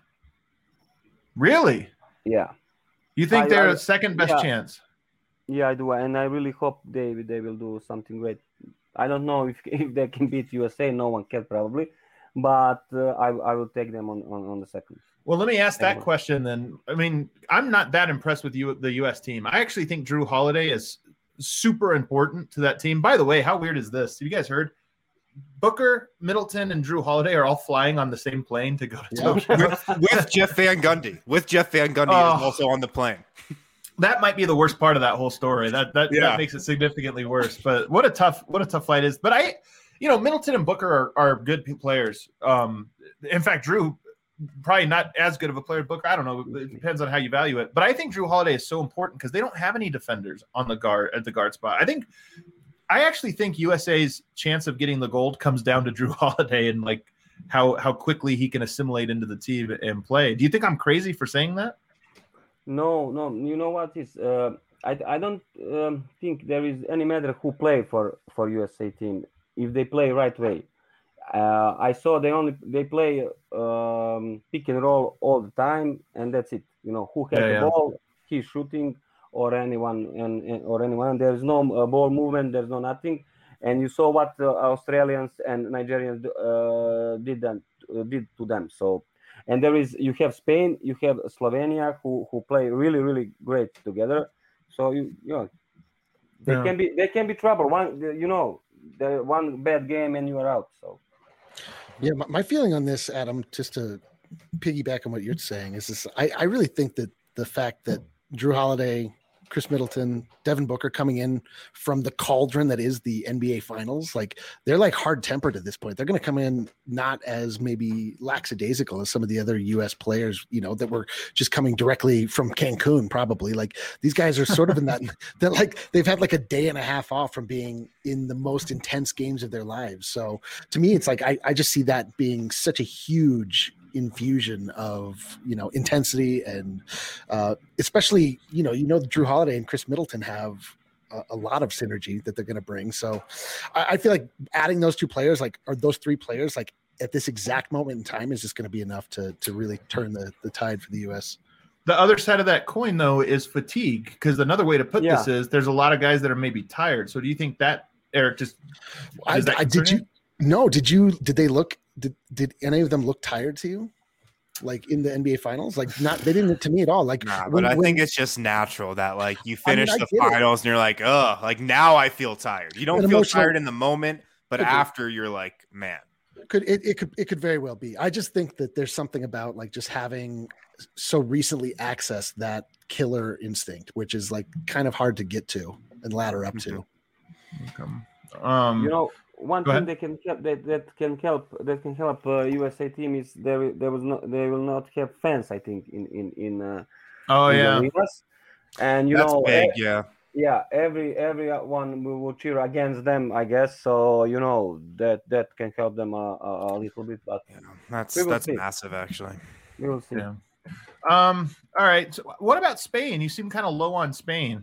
Really? Yeah. You think I- they're I- a second best yeah. chance? Yeah, I do, and I really hope they they will do something great. I don't know if if they can beat U S A. No one can probably, but uh, I I will take them on, on, on the second. Well, let me ask that Yeah. question then. I mean, I'm not that impressed with you, the U S team. I actually think Drew Holiday is super important to that team. By the way, how weird is this? Have you guys heard? Booker, Middleton, and Drew Holiday are all flying on the same plane to go to Yeah. Tokyo. with, with Jeff Van Gundy. With Jeff Van Gundy Oh. is also on the plane. That might be the worst part of that whole story. That that, Yeah. that makes it significantly worse. But what a tough what a tough flight is. But I, you know, Middleton and Booker are, are good p- players. Um, in fact, Drew probably not as good of a player as Booker. I don't know. It depends on how you value it. But I think Drew Holiday is so important because they don't have any defenders on the guard at the guard spot. I think I actually think U S A's chance of getting the gold comes down to Drew Holiday and like how how quickly he can assimilate into the team and play. Do you think I'm crazy for saying that? No, no. You know what is? Uh, I I don't um, think there is any matter who play for for U S A team if they play right way. Uh, I saw they only they play um, pick and roll all the time, and that's it. You know who has Yeah, the yeah. ball, he's shooting, or anyone and, and or anyone. There is no uh, ball movement. There's no nothing. And you saw what the Australians and Nigerians uh, did them, uh, did to them. So, and there is you have Spain, you have Slovenia who who play really really great together. So you you know they Yeah. can be they can be trouble. One you know the one bad game and you are out. So. Yeah, my, my feeling on this, Adam, just to piggyback on what you're saying, is this: I, I really think that the fact that Drew Holiday, Chris Middleton, Devin Booker coming in from the cauldron that is the N B A Finals, like they're like hard tempered at this point. They're going to come in not as maybe lackadaisical as some of the other U S players, you know, that were just coming directly from Cancun. Probably like these guys are sort of in that. They're like they've had like a day and a half off from being in the most intense games of their lives. So to me, it's like I, I just see that being such a huge infusion of you know intensity and uh especially you know you know Drew Holiday and Chris Middleton have a, a lot of synergy that they're going to bring. So I, I feel like adding those two players, like or those three players, like at this exact moment in time, is just going to be enough to to really turn the the tide for the U S. The other side of that coin, though, is fatigue. Because another way to put Yeah. this is there's a lot of guys that are maybe tired. So do you think that, Eric, just I, does that I did concern you no did you did they look did did any of them look tired to you like in the N B A Finals? Like not they didn't to me at all. Like Nah, but when- I when- think it's just natural that like you I mean, finish I the get it. finals and you're like, oh, like now I feel tired. You don't An feel emotional- tired in the moment, but Could be. after you're like, man. could it, it could it could very well be. I just think that there's something about like just having so recently accessed that killer instinct, which is like kind of hard to get to and ladder up to. Um, You know, one Go thing ahead. they can help that, that can help that can help uh, U S A team is there there was no they will not have fans. I think in in in. Uh, oh in the yeah, arenas. And you That's know, big, e- yeah. yeah, every everyone will, will cheer against them, I guess. So you know that that can help them a, a, a little bit, but Yeah, That's We will that's see. massive actually. we will see. yeah. Um, all right. So what about Spain? You seem kind of low on Spain.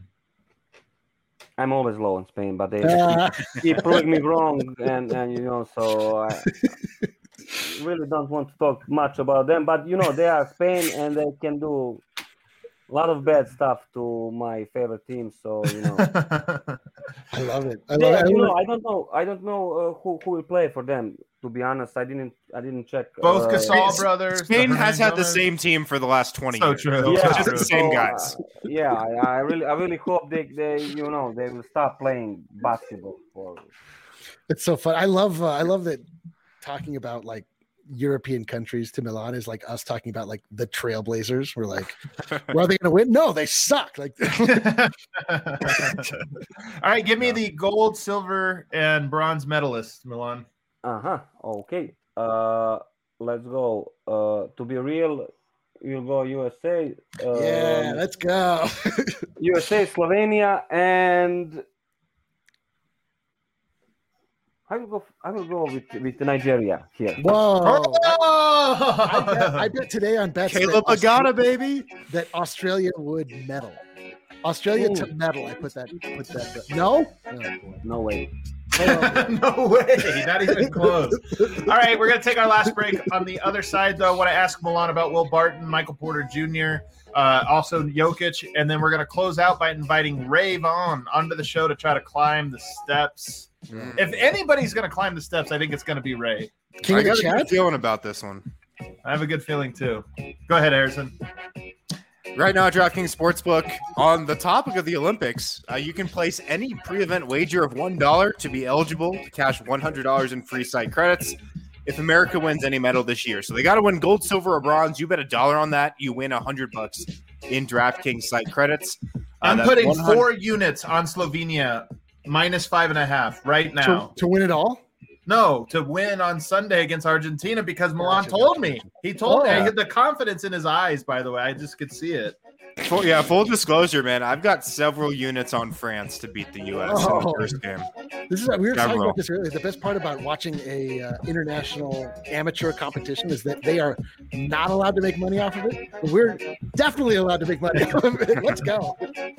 I'm always low on Spain, but they Ah, keep proving me wrong, and and you know, so I really don't want to talk much about them. But you know, they are Spain, and they can do a lot of bad stuff to my favorite team. So you know, I love it. I they, love it. I you love know, I don't know, I don't know uh, who who will play for them. to be honest, I didn't I didn't check. Both uh, Gasol brothers. Spain the has had the Hernandez. same team for the last twenty So years. true. Yeah, It's just the same so, guys. uh, yeah, I, I really I really hope they, they you know they will stop playing basketball for. It's so fun. I love uh, I love that talking about like European countries to Milan is like us talking about like the Trailblazers. We're like, well, are they going to win? No, they suck. Like, All right, give me the gold, silver, and bronze medalists, Milan. Uh huh. Okay. Uh, let's go. Uh, to be real, we'll go U S A. Uh, yeah, let's go. U S A, Slovenia, and I will go. I will go with with Nigeria here. Whoa. Oh! I, bet, I bet today on bets Caleb that, Agata, Austra- baby. that Australia would medal. Australia Ooh. to medal. I put that. Put that. No. Oh, boy. No way. No way, not even close. All right, we're going to take our last break. On the other side, though, I want to ask Milan about Will Barton, Michael Porter Junior, uh, also Jokic, and then we're going to close out by inviting Ray Vaughn onto the show to try to climb the steps. Mm. If anybody's going to climb the steps, I think it's going to be Ray. King I of the got a good chat. feeling about this one. I have a good feeling, too. Go ahead, Harrison. Right now, DraftKings Sportsbook, on the topic of the Olympics, uh, you can place any pre-event wager of one dollar to be eligible to cash one hundred dollars in free site credits if America wins any medal this year. So they got to win gold, silver, or bronze. You bet a dollar on that, you win one hundred bucks in DraftKings site credits. Uh, I'm that's putting one hundred four units on Slovenia, minus five and a half right now. To, to win it all. No, to win on Sunday against Argentina because Milan Gotcha, told gotcha, me. gotcha. He told Oh. me. I had the confidence in his eyes, by the way. I just could see it. Full, yeah, full disclosure, man. I've got several units on France to beat the U S in Oh. the first game. This is we were talking Several. about this earlier. The best part about watching a uh, international amateur competition is that they are not allowed to make money off of it. But we're definitely allowed to make money off of it. Let's go.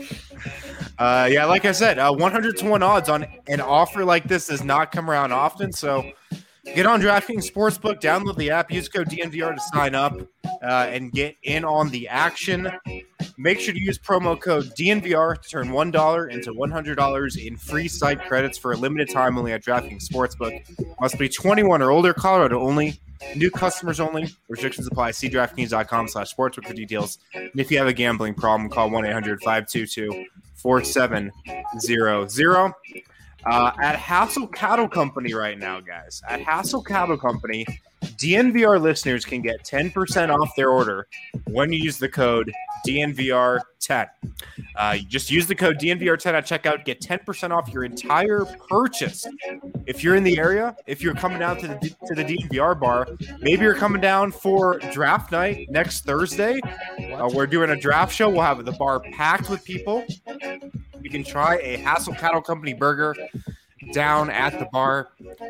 Uh, yeah, like I said, uh, one hundred to one odds on an offer like this does not come around often. So get on DraftKings Sportsbook, download the app, use code D N V R to sign up uh, and get in on the action. Make sure to use promo code D N V R to turn one dollar into one hundred dollars in free site credits for a limited time only at DraftKings Sportsbook. Must be twenty-one or older, Colorado only. New customers only. Restrictions apply. See DraftKings.com slash sportsbook for details. And if you have a gambling problem, call one eight hundred five two two four seven zero zero. Uh, at Hassel Cattle Company right now, guys. At Hassel Cattle Company, D N V R listeners can get ten percent off their order when you use the code D N V R ten. Uh, you just use the code D N V R ten at checkout. Get ten percent off your entire purchase. If you're in the area, if you're coming down to the to the D N V R bar, maybe you're coming down for draft night next Thursday. Uh, we're doing a draft show. We'll have the bar packed with people. You can try a Hassel Cattle Company burger down at the bar.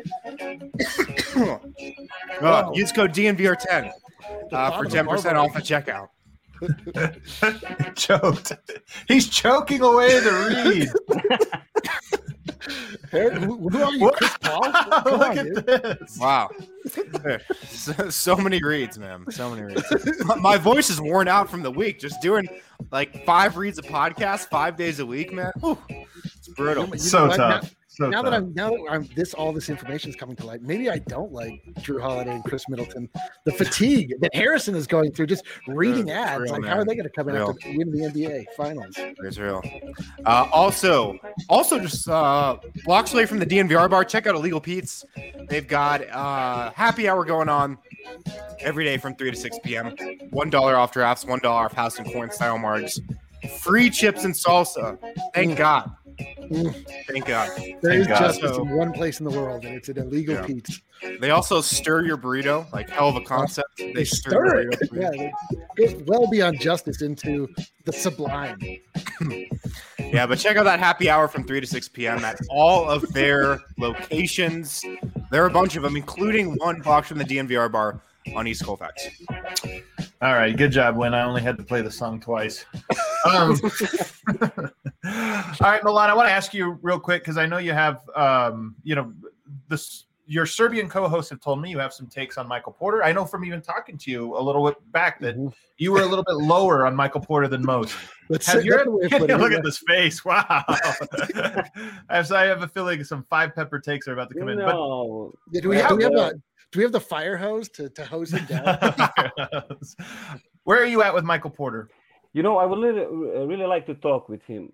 uh, use code D N V R ten uh, for ten percent off at checkout. Choked. He's choking away the read. Hey, who, who are you, Chris Paul? Come Look on, at dude. this. Wow. So, so many reads, man. So many reads. My, my voice is worn out from the week. Just doing like five reads a podcast five days a week, man. Whew, it's brutal. You know So what? tough. Now, So now that tough. I'm now that I'm this all this information is coming to light, maybe I don't like Drew Holiday and Chris Middleton. The fatigue that Harrison is going through, just reading It's ads. real, like, man. how are they going to come in Real. after win the N B A Finals? It's real. Uh, also, also just uh, blocks away from the D N V R bar. Check out Illegal Pete's. They've got uh, happy hour going on every day from three to six p.m. One dollar off drafts, one dollar off house and coin style marks, free chips and salsa. Thank Mm. God. Mm. Thank God. There is God. justice So- in one place in the world, and it's an illegal Yeah. Pete's. They also stir your burrito, like hell of a concept. They, They stir, stir your it. burrito. Yeah, it goes well beyond justice into the sublime. Yeah, but check out that happy hour from three to six p.m. at all of their locations. There are a bunch of them, including one block from the D N V R bar on East Colfax. All right, good job, Win. I only had to play the song twice. Um, all right, Milan, I want to ask you real quick because I know you have, um, you know, this your Serbian co-hosts have told me you have some takes on Michael Porter. I know from even talking to you a little bit back that mm-hmm. you were a little bit lower on Michael Porter than most. Let's have say, your, look at this face. Wow. I have a feeling some five pepper takes are about to come in. No. But do we have, do we have a do we have the fire hose to, to hose him down? Where are you at with Michael Porter? You know, I would really, really like to talk with him.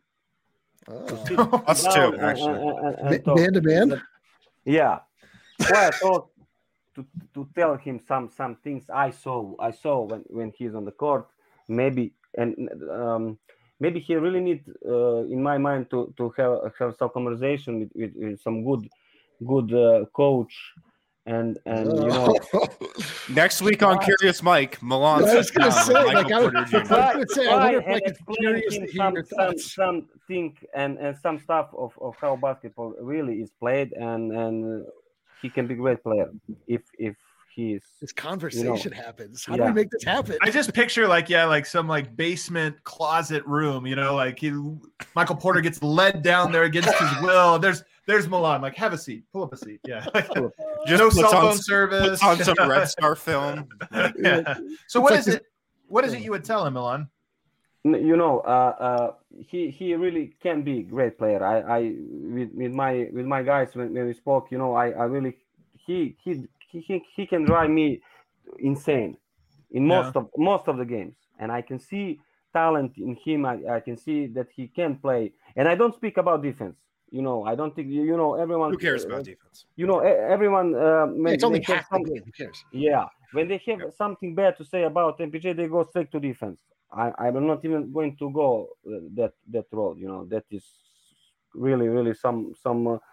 Oh. Us too, actually. And, and, and man to man? Yeah. Well, I thought to, to tell him some some things I saw I saw when, when he's on the court. Maybe and um, maybe he really need, uh, in my mind, to, to have have some conversation with, with, with some good good uh, coach. And and you know, next week on Curious Mike, Milan. I was going to say, Michael like, I Porter was going to say, I wonder if Mike is curious to hear some, your some, thoughts. some think and, and some stuff of, of how basketball really is played, and and he can be a great player if if he's this conversation you know, happens. How yeah. do we make this happen? I just picture like yeah, like some like basement closet room, you know, like he Michael Porter gets led down there against his will. There's There's Milan. Like, have a seat. Pull up a seat. Yeah. Just no cell phone on, service. On some Red Star film. Yeah. So what is it? What is it you would tell him, Milan? You know, uh, uh, he he really can be a great player. I, I with, with my with my guys when, when we spoke, you know, I, I really he he he he can drive me insane in most yeah. of most of the games, and I can see talent in him. I, I can see that he can play, and I don't speak about defense. You know, I don't think you, you know everyone. Who cares about uh, defense? You know, everyone. Uh, yeah, it's only half the game. Who cares? Yeah, when they have yeah. something bad to say about M P J, they go straight to defense. I, I'm not even going to go that that road. You know, that is really, really some some uh,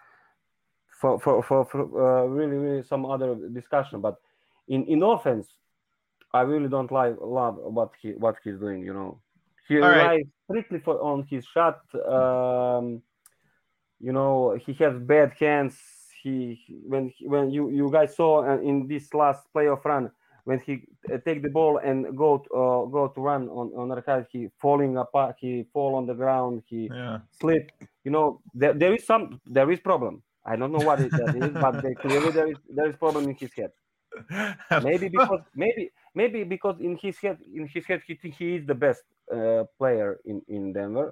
for for for, for uh, really, really some other discussion. But in, in offense, I really don't like love what he what he's doing. You know, he All relies right. strictly for on his shot. Um, You know, he has bad hands. He when when you, you guys saw in this last playoff run when he take the ball and go to, uh, go to run on on arcade, he falling apart. He fall on the ground. He yeah. slip. You know, there, there is some there is problem. I don't know what it that is, but they, clearly there is there is problem in his head. Maybe because maybe maybe because in his head in his head he think he is the best uh, player in, in Denver.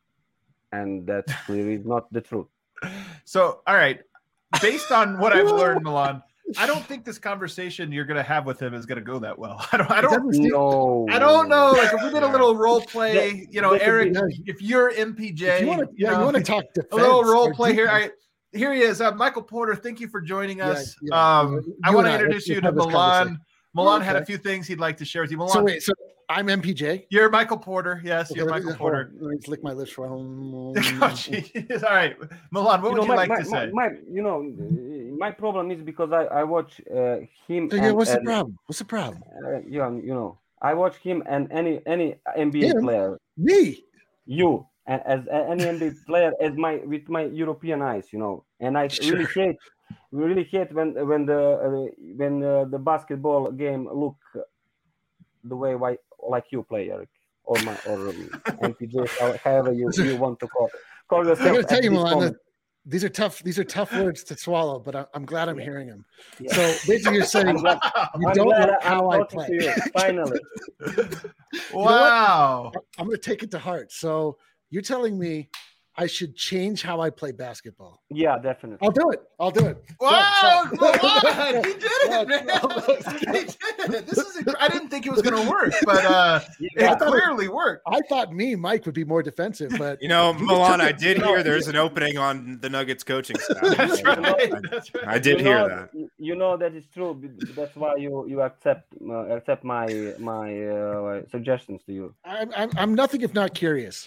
And that clearly is not the truth. So, all right. Based on what I've learned, Milan, I don't think this conversation you're going to have with him is going to go that well. I don't. I don't know. I don't know. Like if we did a little role play, you know, Eric, if you're M P J, if you want to, yeah, you, know, you want to talk defense, a little role play here. All right, here he is, uh, Michael Porter. Thank you for joining us. Yeah, yeah. Um, you I want to introduce you to Milan. Milan okay. had a few things he'd like to share with you. Milan, so wait, so I'm M P J. You're Michael Porter. Yes, okay, you're Michael me, Porter. Let me lick my lips for home. Oh, all right, Milan, what you would know, you my, like my, to say? My, my, you know, my problem is because I, I watch uh, him. So, yeah, and, what's and, the problem? What's the problem? Uh, you, know, you know, I watch him and any any N B A him? player. Me. You and as any N B A player as my with my European eyes, you know, and I Sure. really hate, really hate when when the uh, when uh, the basketball game look the way why like you play, Eric, or my or um, M P J, however you, you want to call call yourself. I got to tell you, Milan, these are tough. These are tough words to swallow, but I, I'm glad I'm yeah. hearing them. Yeah. So basically, you're saying glad, you I'm don't glad like how I'm I play. To you, finally, Wow! You know I'm going to take it to heart. So you're telling me I should change how I play basketball. Yeah, definitely. I'll do it. I'll do it. Wow! So, so. He did it, man! He did it. This is. Inc- I didn't think it was going to work, but uh, yeah, it clearly worked. I thought me, Mike, would be more defensive, but you know, Milan, I did hear there's an opening on the Nuggets coaching staff. That's right. I, That's right. I did you hear know, that. You know that is true. That's why you you accept uh, accept my my uh, suggestions to you. I'm, I'm I'm nothing if not curious.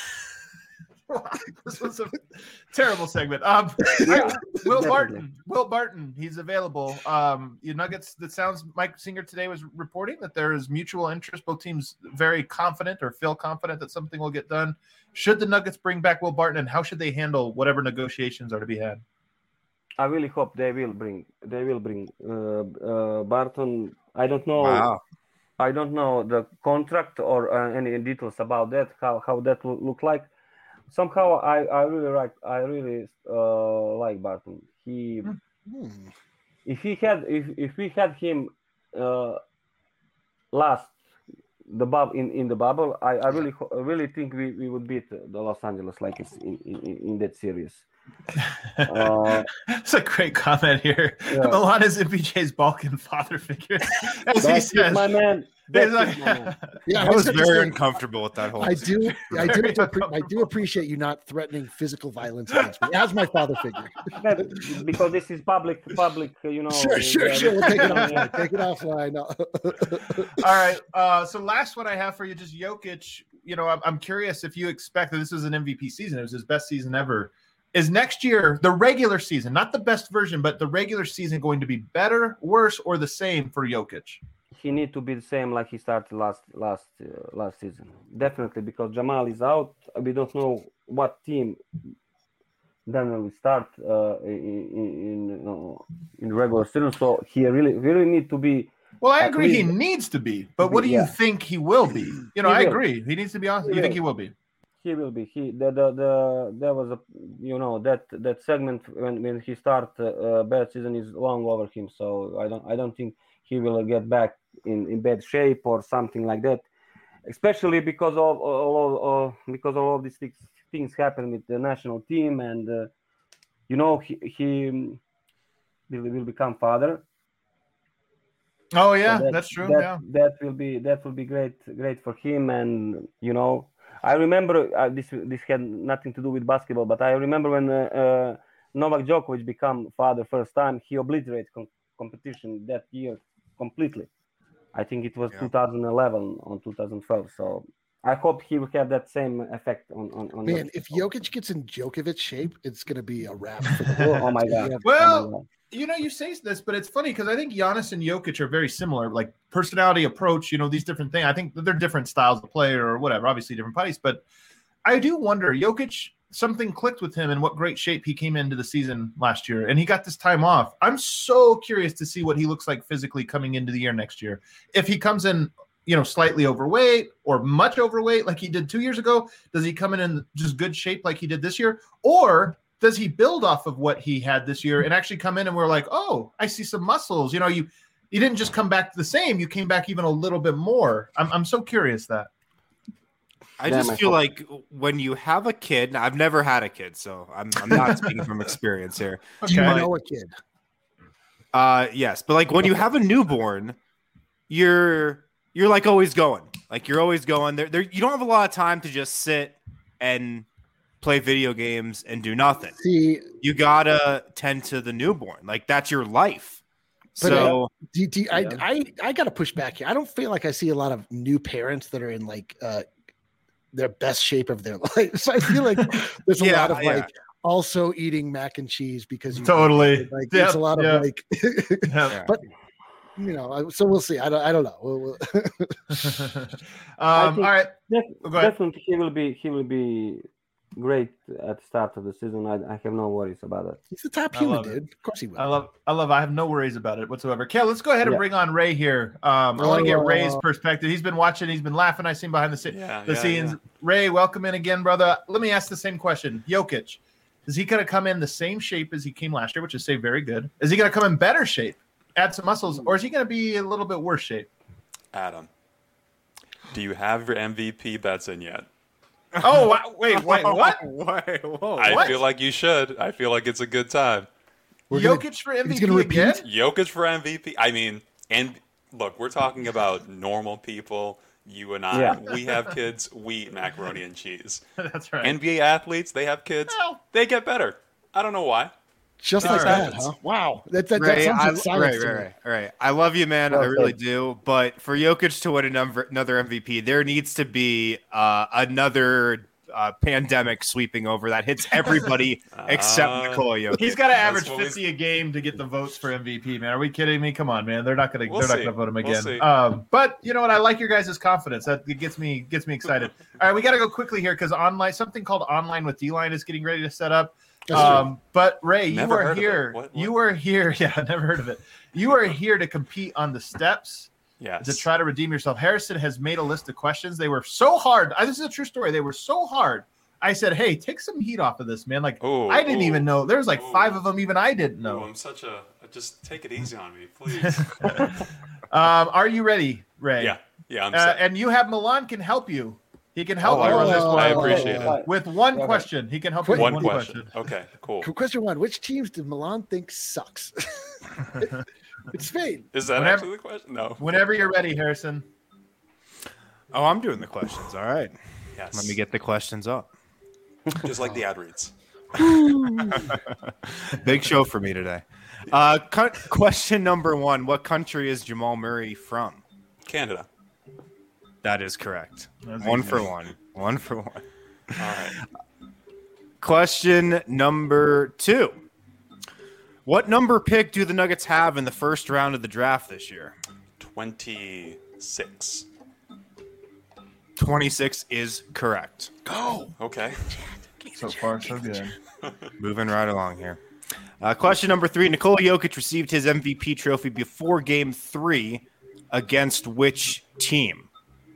This was a terrible segment. Um, Yeah, Will definitely. Barton. Will Barton. He's available. Um, you Nuggets. That sounds. Mike Singer today was reporting that there is mutual interest. Both teams very confident or feel confident that something will get done. Should the Nuggets bring back Will Barton, and how should they handle whatever negotiations are to be had? I really hope they will bring they will bring uh, uh, Barton. I don't know. Wow. I don't know the contract or uh, any details about that. How how that will look like. Somehow I, I really like I really uh, like Barton. He Hmm. If he had, if if we had him uh, last the bub in, in the bubble, I, I really I really think we, we would beat the Los Angeles Lakers in, in, in that series. Uh, That's a great comment here. Yeah. Milan is M P J's Balkan father figure. As he That's says, my man. That's like- my man. Yeah, I was gonna very say, uncomfortable with that whole. I do, I do, appre- I do appreciate you not threatening physical violence against me as my father figure. That- because this is public, public, you know. Sure, sure, uh, sure. We'll take it yeah. offline. Take it offline. All right. Uh, so last one I have for you, just Jokic. You know, I'm, I'm curious if you expect that this was an M V P season. It was his best season ever. Is next year, the regular season, not the best version, but the regular season going to be better, worse, or the same for Jokic? He need to be the same like he started last last uh, last season. Definitely, because Jamal is out. We don't know what team then will start uh, in in, uh, in regular season. So he really really need to be. Well, I At agree he least- needs to be, but what do you Yeah. think he will be? You know, He I will. agree. He needs to be honest. He You think will. he will be? He will be. He the the, the there was a you know that that segment when, when he start uh, uh, bad season is long over him. So I don't I don't think he will get back in, in bad shape or something like that. Especially because of all of, uh, because of all these things, things happen with the national team, and uh, you know he he will, will become father. Oh yeah, So that- that's true. That, yeah. that will be that will be great great for him, and you know I remember uh, this this had nothing to do with basketball, but I remember when uh, uh, Novak Djokovic became father first time, he obliterated com- competition that year completely. I think it was Yeah. two thousand eleven or two thousand twelve. So I hope he will have that same effect on on. on Man, if Jokic gets in Djokovic shape, it's going to be a wrap for the world. Oh my God. Yeah. Well, Oh my God. you know, you say this, but it's funny because I think Giannis and Jokic are very similar, like personality, approach, you know, these different things. I think they're different styles of play or whatever, obviously different bodies. But I do wonder, Jokic, something clicked with him and what great shape he came into the season last year. And he got this time off. I'm so curious to see what he looks like physically coming into the year next year. If he comes in, you know, slightly overweight or much overweight like he did two years ago, does he come in in just good shape like he did this year? Or does he build off of what he had this year and actually come in and we're like, oh, I see some muscles. You know, you you didn't just come back the same. You came back even a little bit more. I'm I'm so curious that. I Yeah, just my feel fault. like when you have a kid, I've never had a kid, so I'm, I'm not speaking from experience here. Do you Okay. know a kid? Uh, yes, but like when you have a newborn, you're you're like always going, like you're always going. There, there, you don't have a lot of time to just sit and play video games and do nothing. See, You gotta tend to the newborn, like that's your life. But, So do, do, I, Yeah. I, I got to push back here. I don't feel like I see a lot of new parents that are in like uh, their best shape of their life. So I feel like there's a Yeah, lot of yeah. like also eating mac and cheese because you Totally. like Yep, there's a lot of yep. like Yeah. but you know I- so we'll see. I don't I don't know. We'll, we'll um, all think- right. Def- Go ahead. definitely, he will be he will be great at the start of the season. I, I have no worries about it. he's the top I human, love it. dude. Of course he will. I love, I love. I have no worries about it whatsoever. Kel, let's go ahead and Yeah. bring on Ray here. Um, I want to get Oh. Ray's perspective. He's been watching. He's been laughing. I seen behind the, sce- Yeah, the yeah, scenes. yeah. Ray, welcome in again, brother. Let me ask the same question. Jokic, is he going to come in the same shape as he came last year, which is say very good? Is he going to come in better shape, add some muscles, or is he going to be a little bit worse shape? Adam, do you have your M V P bets in yet? Oh, wa- wait, wait, what? Wait, whoa. I What? feel like you should. I feel like it's a good time. We're gonna- Jokic for M V P he's gonna repeat? again? Jokic for M V P. I mean, and look, we're talking about normal people. You and I, Yeah. we have kids. We eat macaroni and cheese. That's right. N B A athletes, they have kids. Well. They get better. I don't know why. Just It like just that, happens. huh? Wow. That, that, that Ray, sounds I, like science right, to right, me. right, right. I love you, man. I Okay. really do. But for Jokic to win another, another M V P, there needs to be uh, another uh, pandemic sweeping over that hits everybody except Uh, Nikola Jokic. He's got to That's average what we- fifty a game to get the votes for M V P, man. Are we kidding me? Come on, man. They're not going to. We'll they're not see. going to vote him We'll again. see. um, but you know what? I like your guys' confidence. That it gets me gets me excited. All right, we got to go quickly here because online something called Online with D-Line is getting ready to set up. That's true. Um, but Ray, you Never are heard of it. here. What- You what? are here. Yeah, I never heard of it. You are here to compete on the steps Yes. to try to redeem yourself. Harrison has made a list of questions. They were so hard. uh, This is a true story. They were so hard. I said, "Hey, take some heat off of this, man." Like Ooh, I didn't ooh, even know. There's like ooh. five of them even I didn't Oh, know. I'm such a. Just take it easy on me, please. um, are you ready, Ray? yeah, yeah. I'm Uh, set. and you have Milan can help you. He can help Oh, you I- on this one. I appreciate it. With one Okay. question, he can help you with One one question. question. Okay, cool. Question one: which teams did Milan think sucks? It's Spain. Is that Whenever- actually the question? No. Whenever you're ready, Harrison. Oh, I'm doing the questions. All right. Yes. Let me get the questions up. Just like the ad reads. Big show for me today. Uh, cu- question number one: what country is Jamal Murray from? Canada. That is correct. That's One easy. for one. One for one. All right. Question number two: what number pick do the Nuggets have in the first round of the draft this year? twenty-six. twenty-six is correct. Go. Okay. So far, so good. Moving right along here. Uh, question number three: Nikola Jokic received his M V P trophy before Game Three against which team?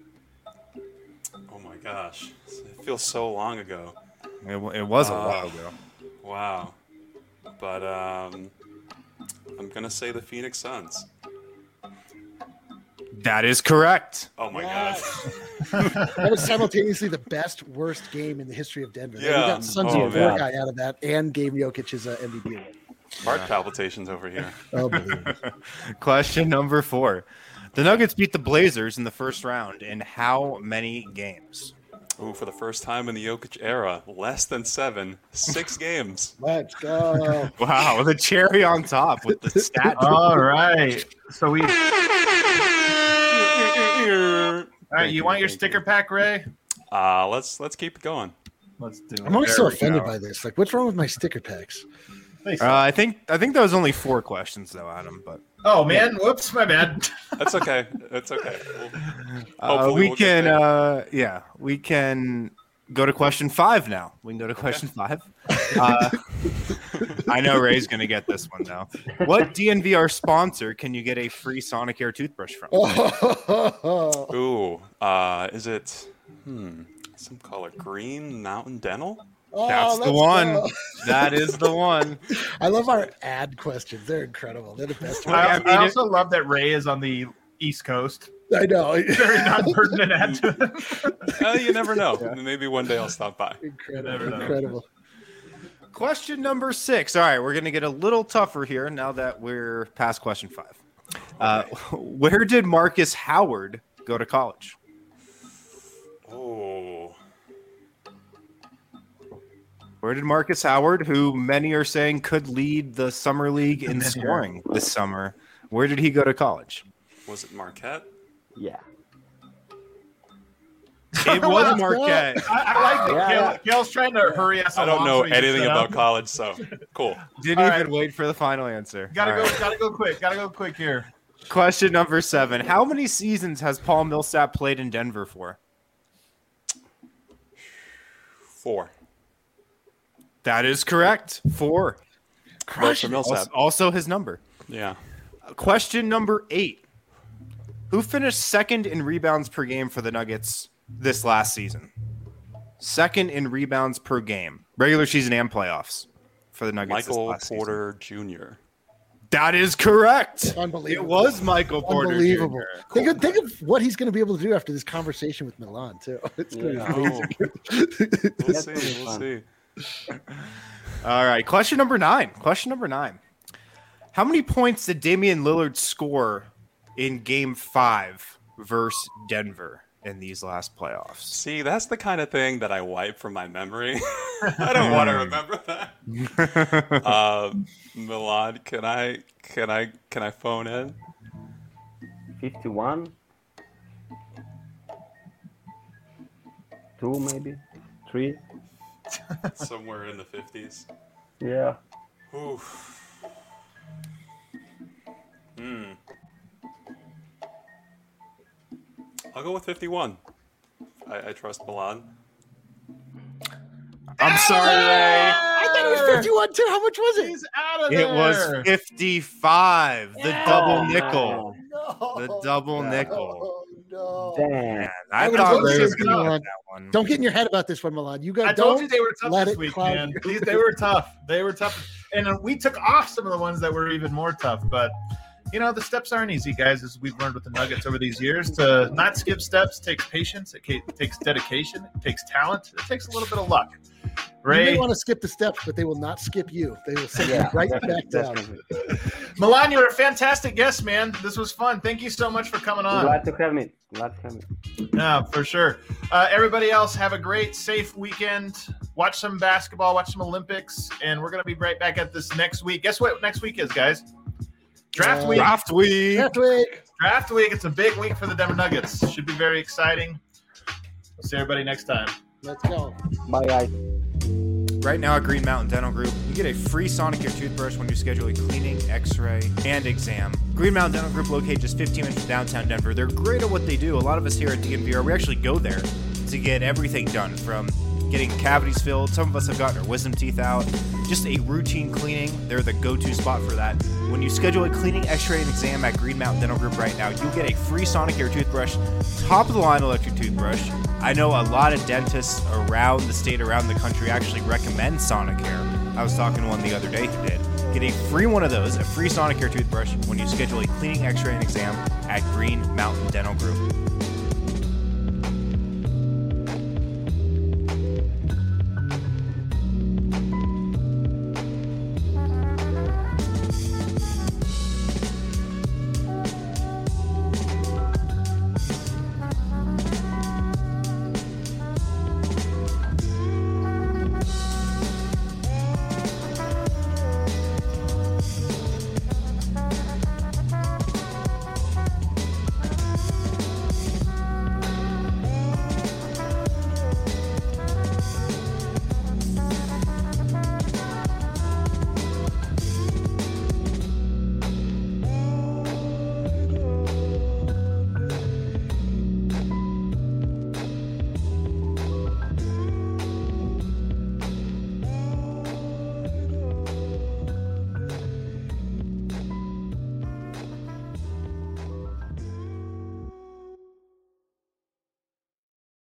Oh my gosh. It feels so long ago. It, w- it was a Uh, while ago. Wow. But um, I'm gonna say the Phoenix Suns. That is correct. Oh my Yes. god. That was simultaneously the best worst game in the history of Denver. They Yeah. got Suns Oh, of man. guy out of that and gave Jokic his uh, M V P award. Heart palpitations over here. Unbelievable. Question number four: the Nuggets beat the Blazers in the first round in how many games? Ooh, for the first time in the Jokic era, less than seven, six games. Let's go. Wow, the cherry on top with the stat. All right. So we. All right. Thank You want your thank sticker pack, Ray? Uh, let's let's keep it going. Let's do it. I'm always There so we offended go. by this. Like, what's wrong with my sticker packs? Thanks. Uh, I think I think that was only four questions though, Adam. But oh man, whoops, my bad. That's okay. That's okay. We'll- uh, Hopefully we we'll get can, there. uh, yeah, we can go to question five now. We can go to question five. Uh, I know Ray's gonna get this one though. What D N V R sponsor can you get a free Sonicare toothbrush from? Oh, Ooh, uh, is it hmm, some color? Green Mountain Dental? That's the let's one. go. That is the one. I love our ad questions. They're incredible. They're the best. I, I ones. mean, I also love that Ray is on the East Coast. I know. Very non-pertinent ad to him. Uh, you never know. Maybe one day I'll stop by. Incredible. Never know. Incredible. Question number six. All right, we're going to get a little tougher here now that we're past question five. Uh, where did Marcus Howard go to college? Oh, Where did Marcus Howard, who many are saying could lead the summer league in Been here. scoring this summer, where did he go to college? was it Marquette? Yeah. It was Marquette. I, I like that. Yeah, Kale, yeah. Kale's trying to hurry us I don't along know so he can anything sit about down. college, so cool. Didn't All even right. wait for the final answer. Gotta All go. right. Gotta go quick. Gotta go quick here. Question number seven. How many seasons has Paul Millsap played in Denver for? Four. That is correct. Four. Vote for Millsap. Also, also his number. Yeah. Question number eight. Who finished second in rebounds per game for the Nuggets this last season? Second in rebounds per game. Regular season and playoffs for the Nuggets this Michael last season. Porter Junior That is correct. Unbelievable. It was Michael Porter Unbelievable. Junior Think of, think of what he's going to be able to do after this conversation with Milan, too. It's going Yeah. to be amazing. We'll That's see. gonna be We'll fun. see. All right. Question number nine. Question number nine. How many points did Damian Lillard score in game five versus Denver in these last playoffs? See, that's the kind of thing that I wipe from my memory. I don't want to remember that. Uh, Milan, can I can I can I phone in? fifty-one. Two, maybe. Three. Somewhere in the fifties. Yeah. Oof. Hmm. I'll go with fifty-one. I, I trust Milan. I'm sorry, Ray. I thought it was fifty-one, too. How much was it? He's out of there. It was fifty-five. The double nickel. No. The double nickel. Oh, no. Damn. I, I would've thought voted Ray was for going to Milan. get that one. Don't get in your head about this one, Milan. You got. I told don't you they were tough let this it week, cloud man. you. These, they were tough. They were tough, and uh, we took off some of the ones that were even more tough. But you know, the steps aren't easy, guys. As we've learned with the Nuggets over these years, to not skip steps takes patience. It, ca- it takes dedication. It takes talent. It takes a little bit of luck. You Ray, may want to skip the steps, but they will not skip you. They will send Yeah, you right definitely, back down. definitely. Milan, you're a fantastic guest, man. This was fun. Thank you so much for coming on. Glad to have me. Glad to have me. Yeah, for sure. Uh, everybody else, have a great, safe weekend. Watch some basketball, watch some Olympics, and we're going to be right back at this next week. Guess what next week is, guys? Draft Uh, week. Draft week. Draft week. Draft week. It's a big week for the Denver Nuggets. Should be very exciting. We'll see everybody next time. Let's go. Bye, guys. Right now at Green Mountain Dental Group, you get a free Sonicare toothbrush when you schedule a cleaning, x-ray, and exam. Green Mountain Dental Group located just fifteen minutes from downtown Denver. They're great at what they do. A lot of us here at D N V R, we actually go there to get everything done, from getting cavities filled. Some of us have gotten our wisdom teeth out. Just a routine cleaning. They're the go-to spot for that. When you schedule a cleaning, x-ray, and exam at Green Mountain Dental Group right now, you'll get a free Sonicare toothbrush, top-of-the-line electric toothbrush. I know a lot of dentists around the state, around the country, actually recommend Sonicare. I was talking to one the other day who did. Get a free one of those, a free Sonicare toothbrush, when you schedule a cleaning, x-ray, and exam at Green Mountain Dental Group.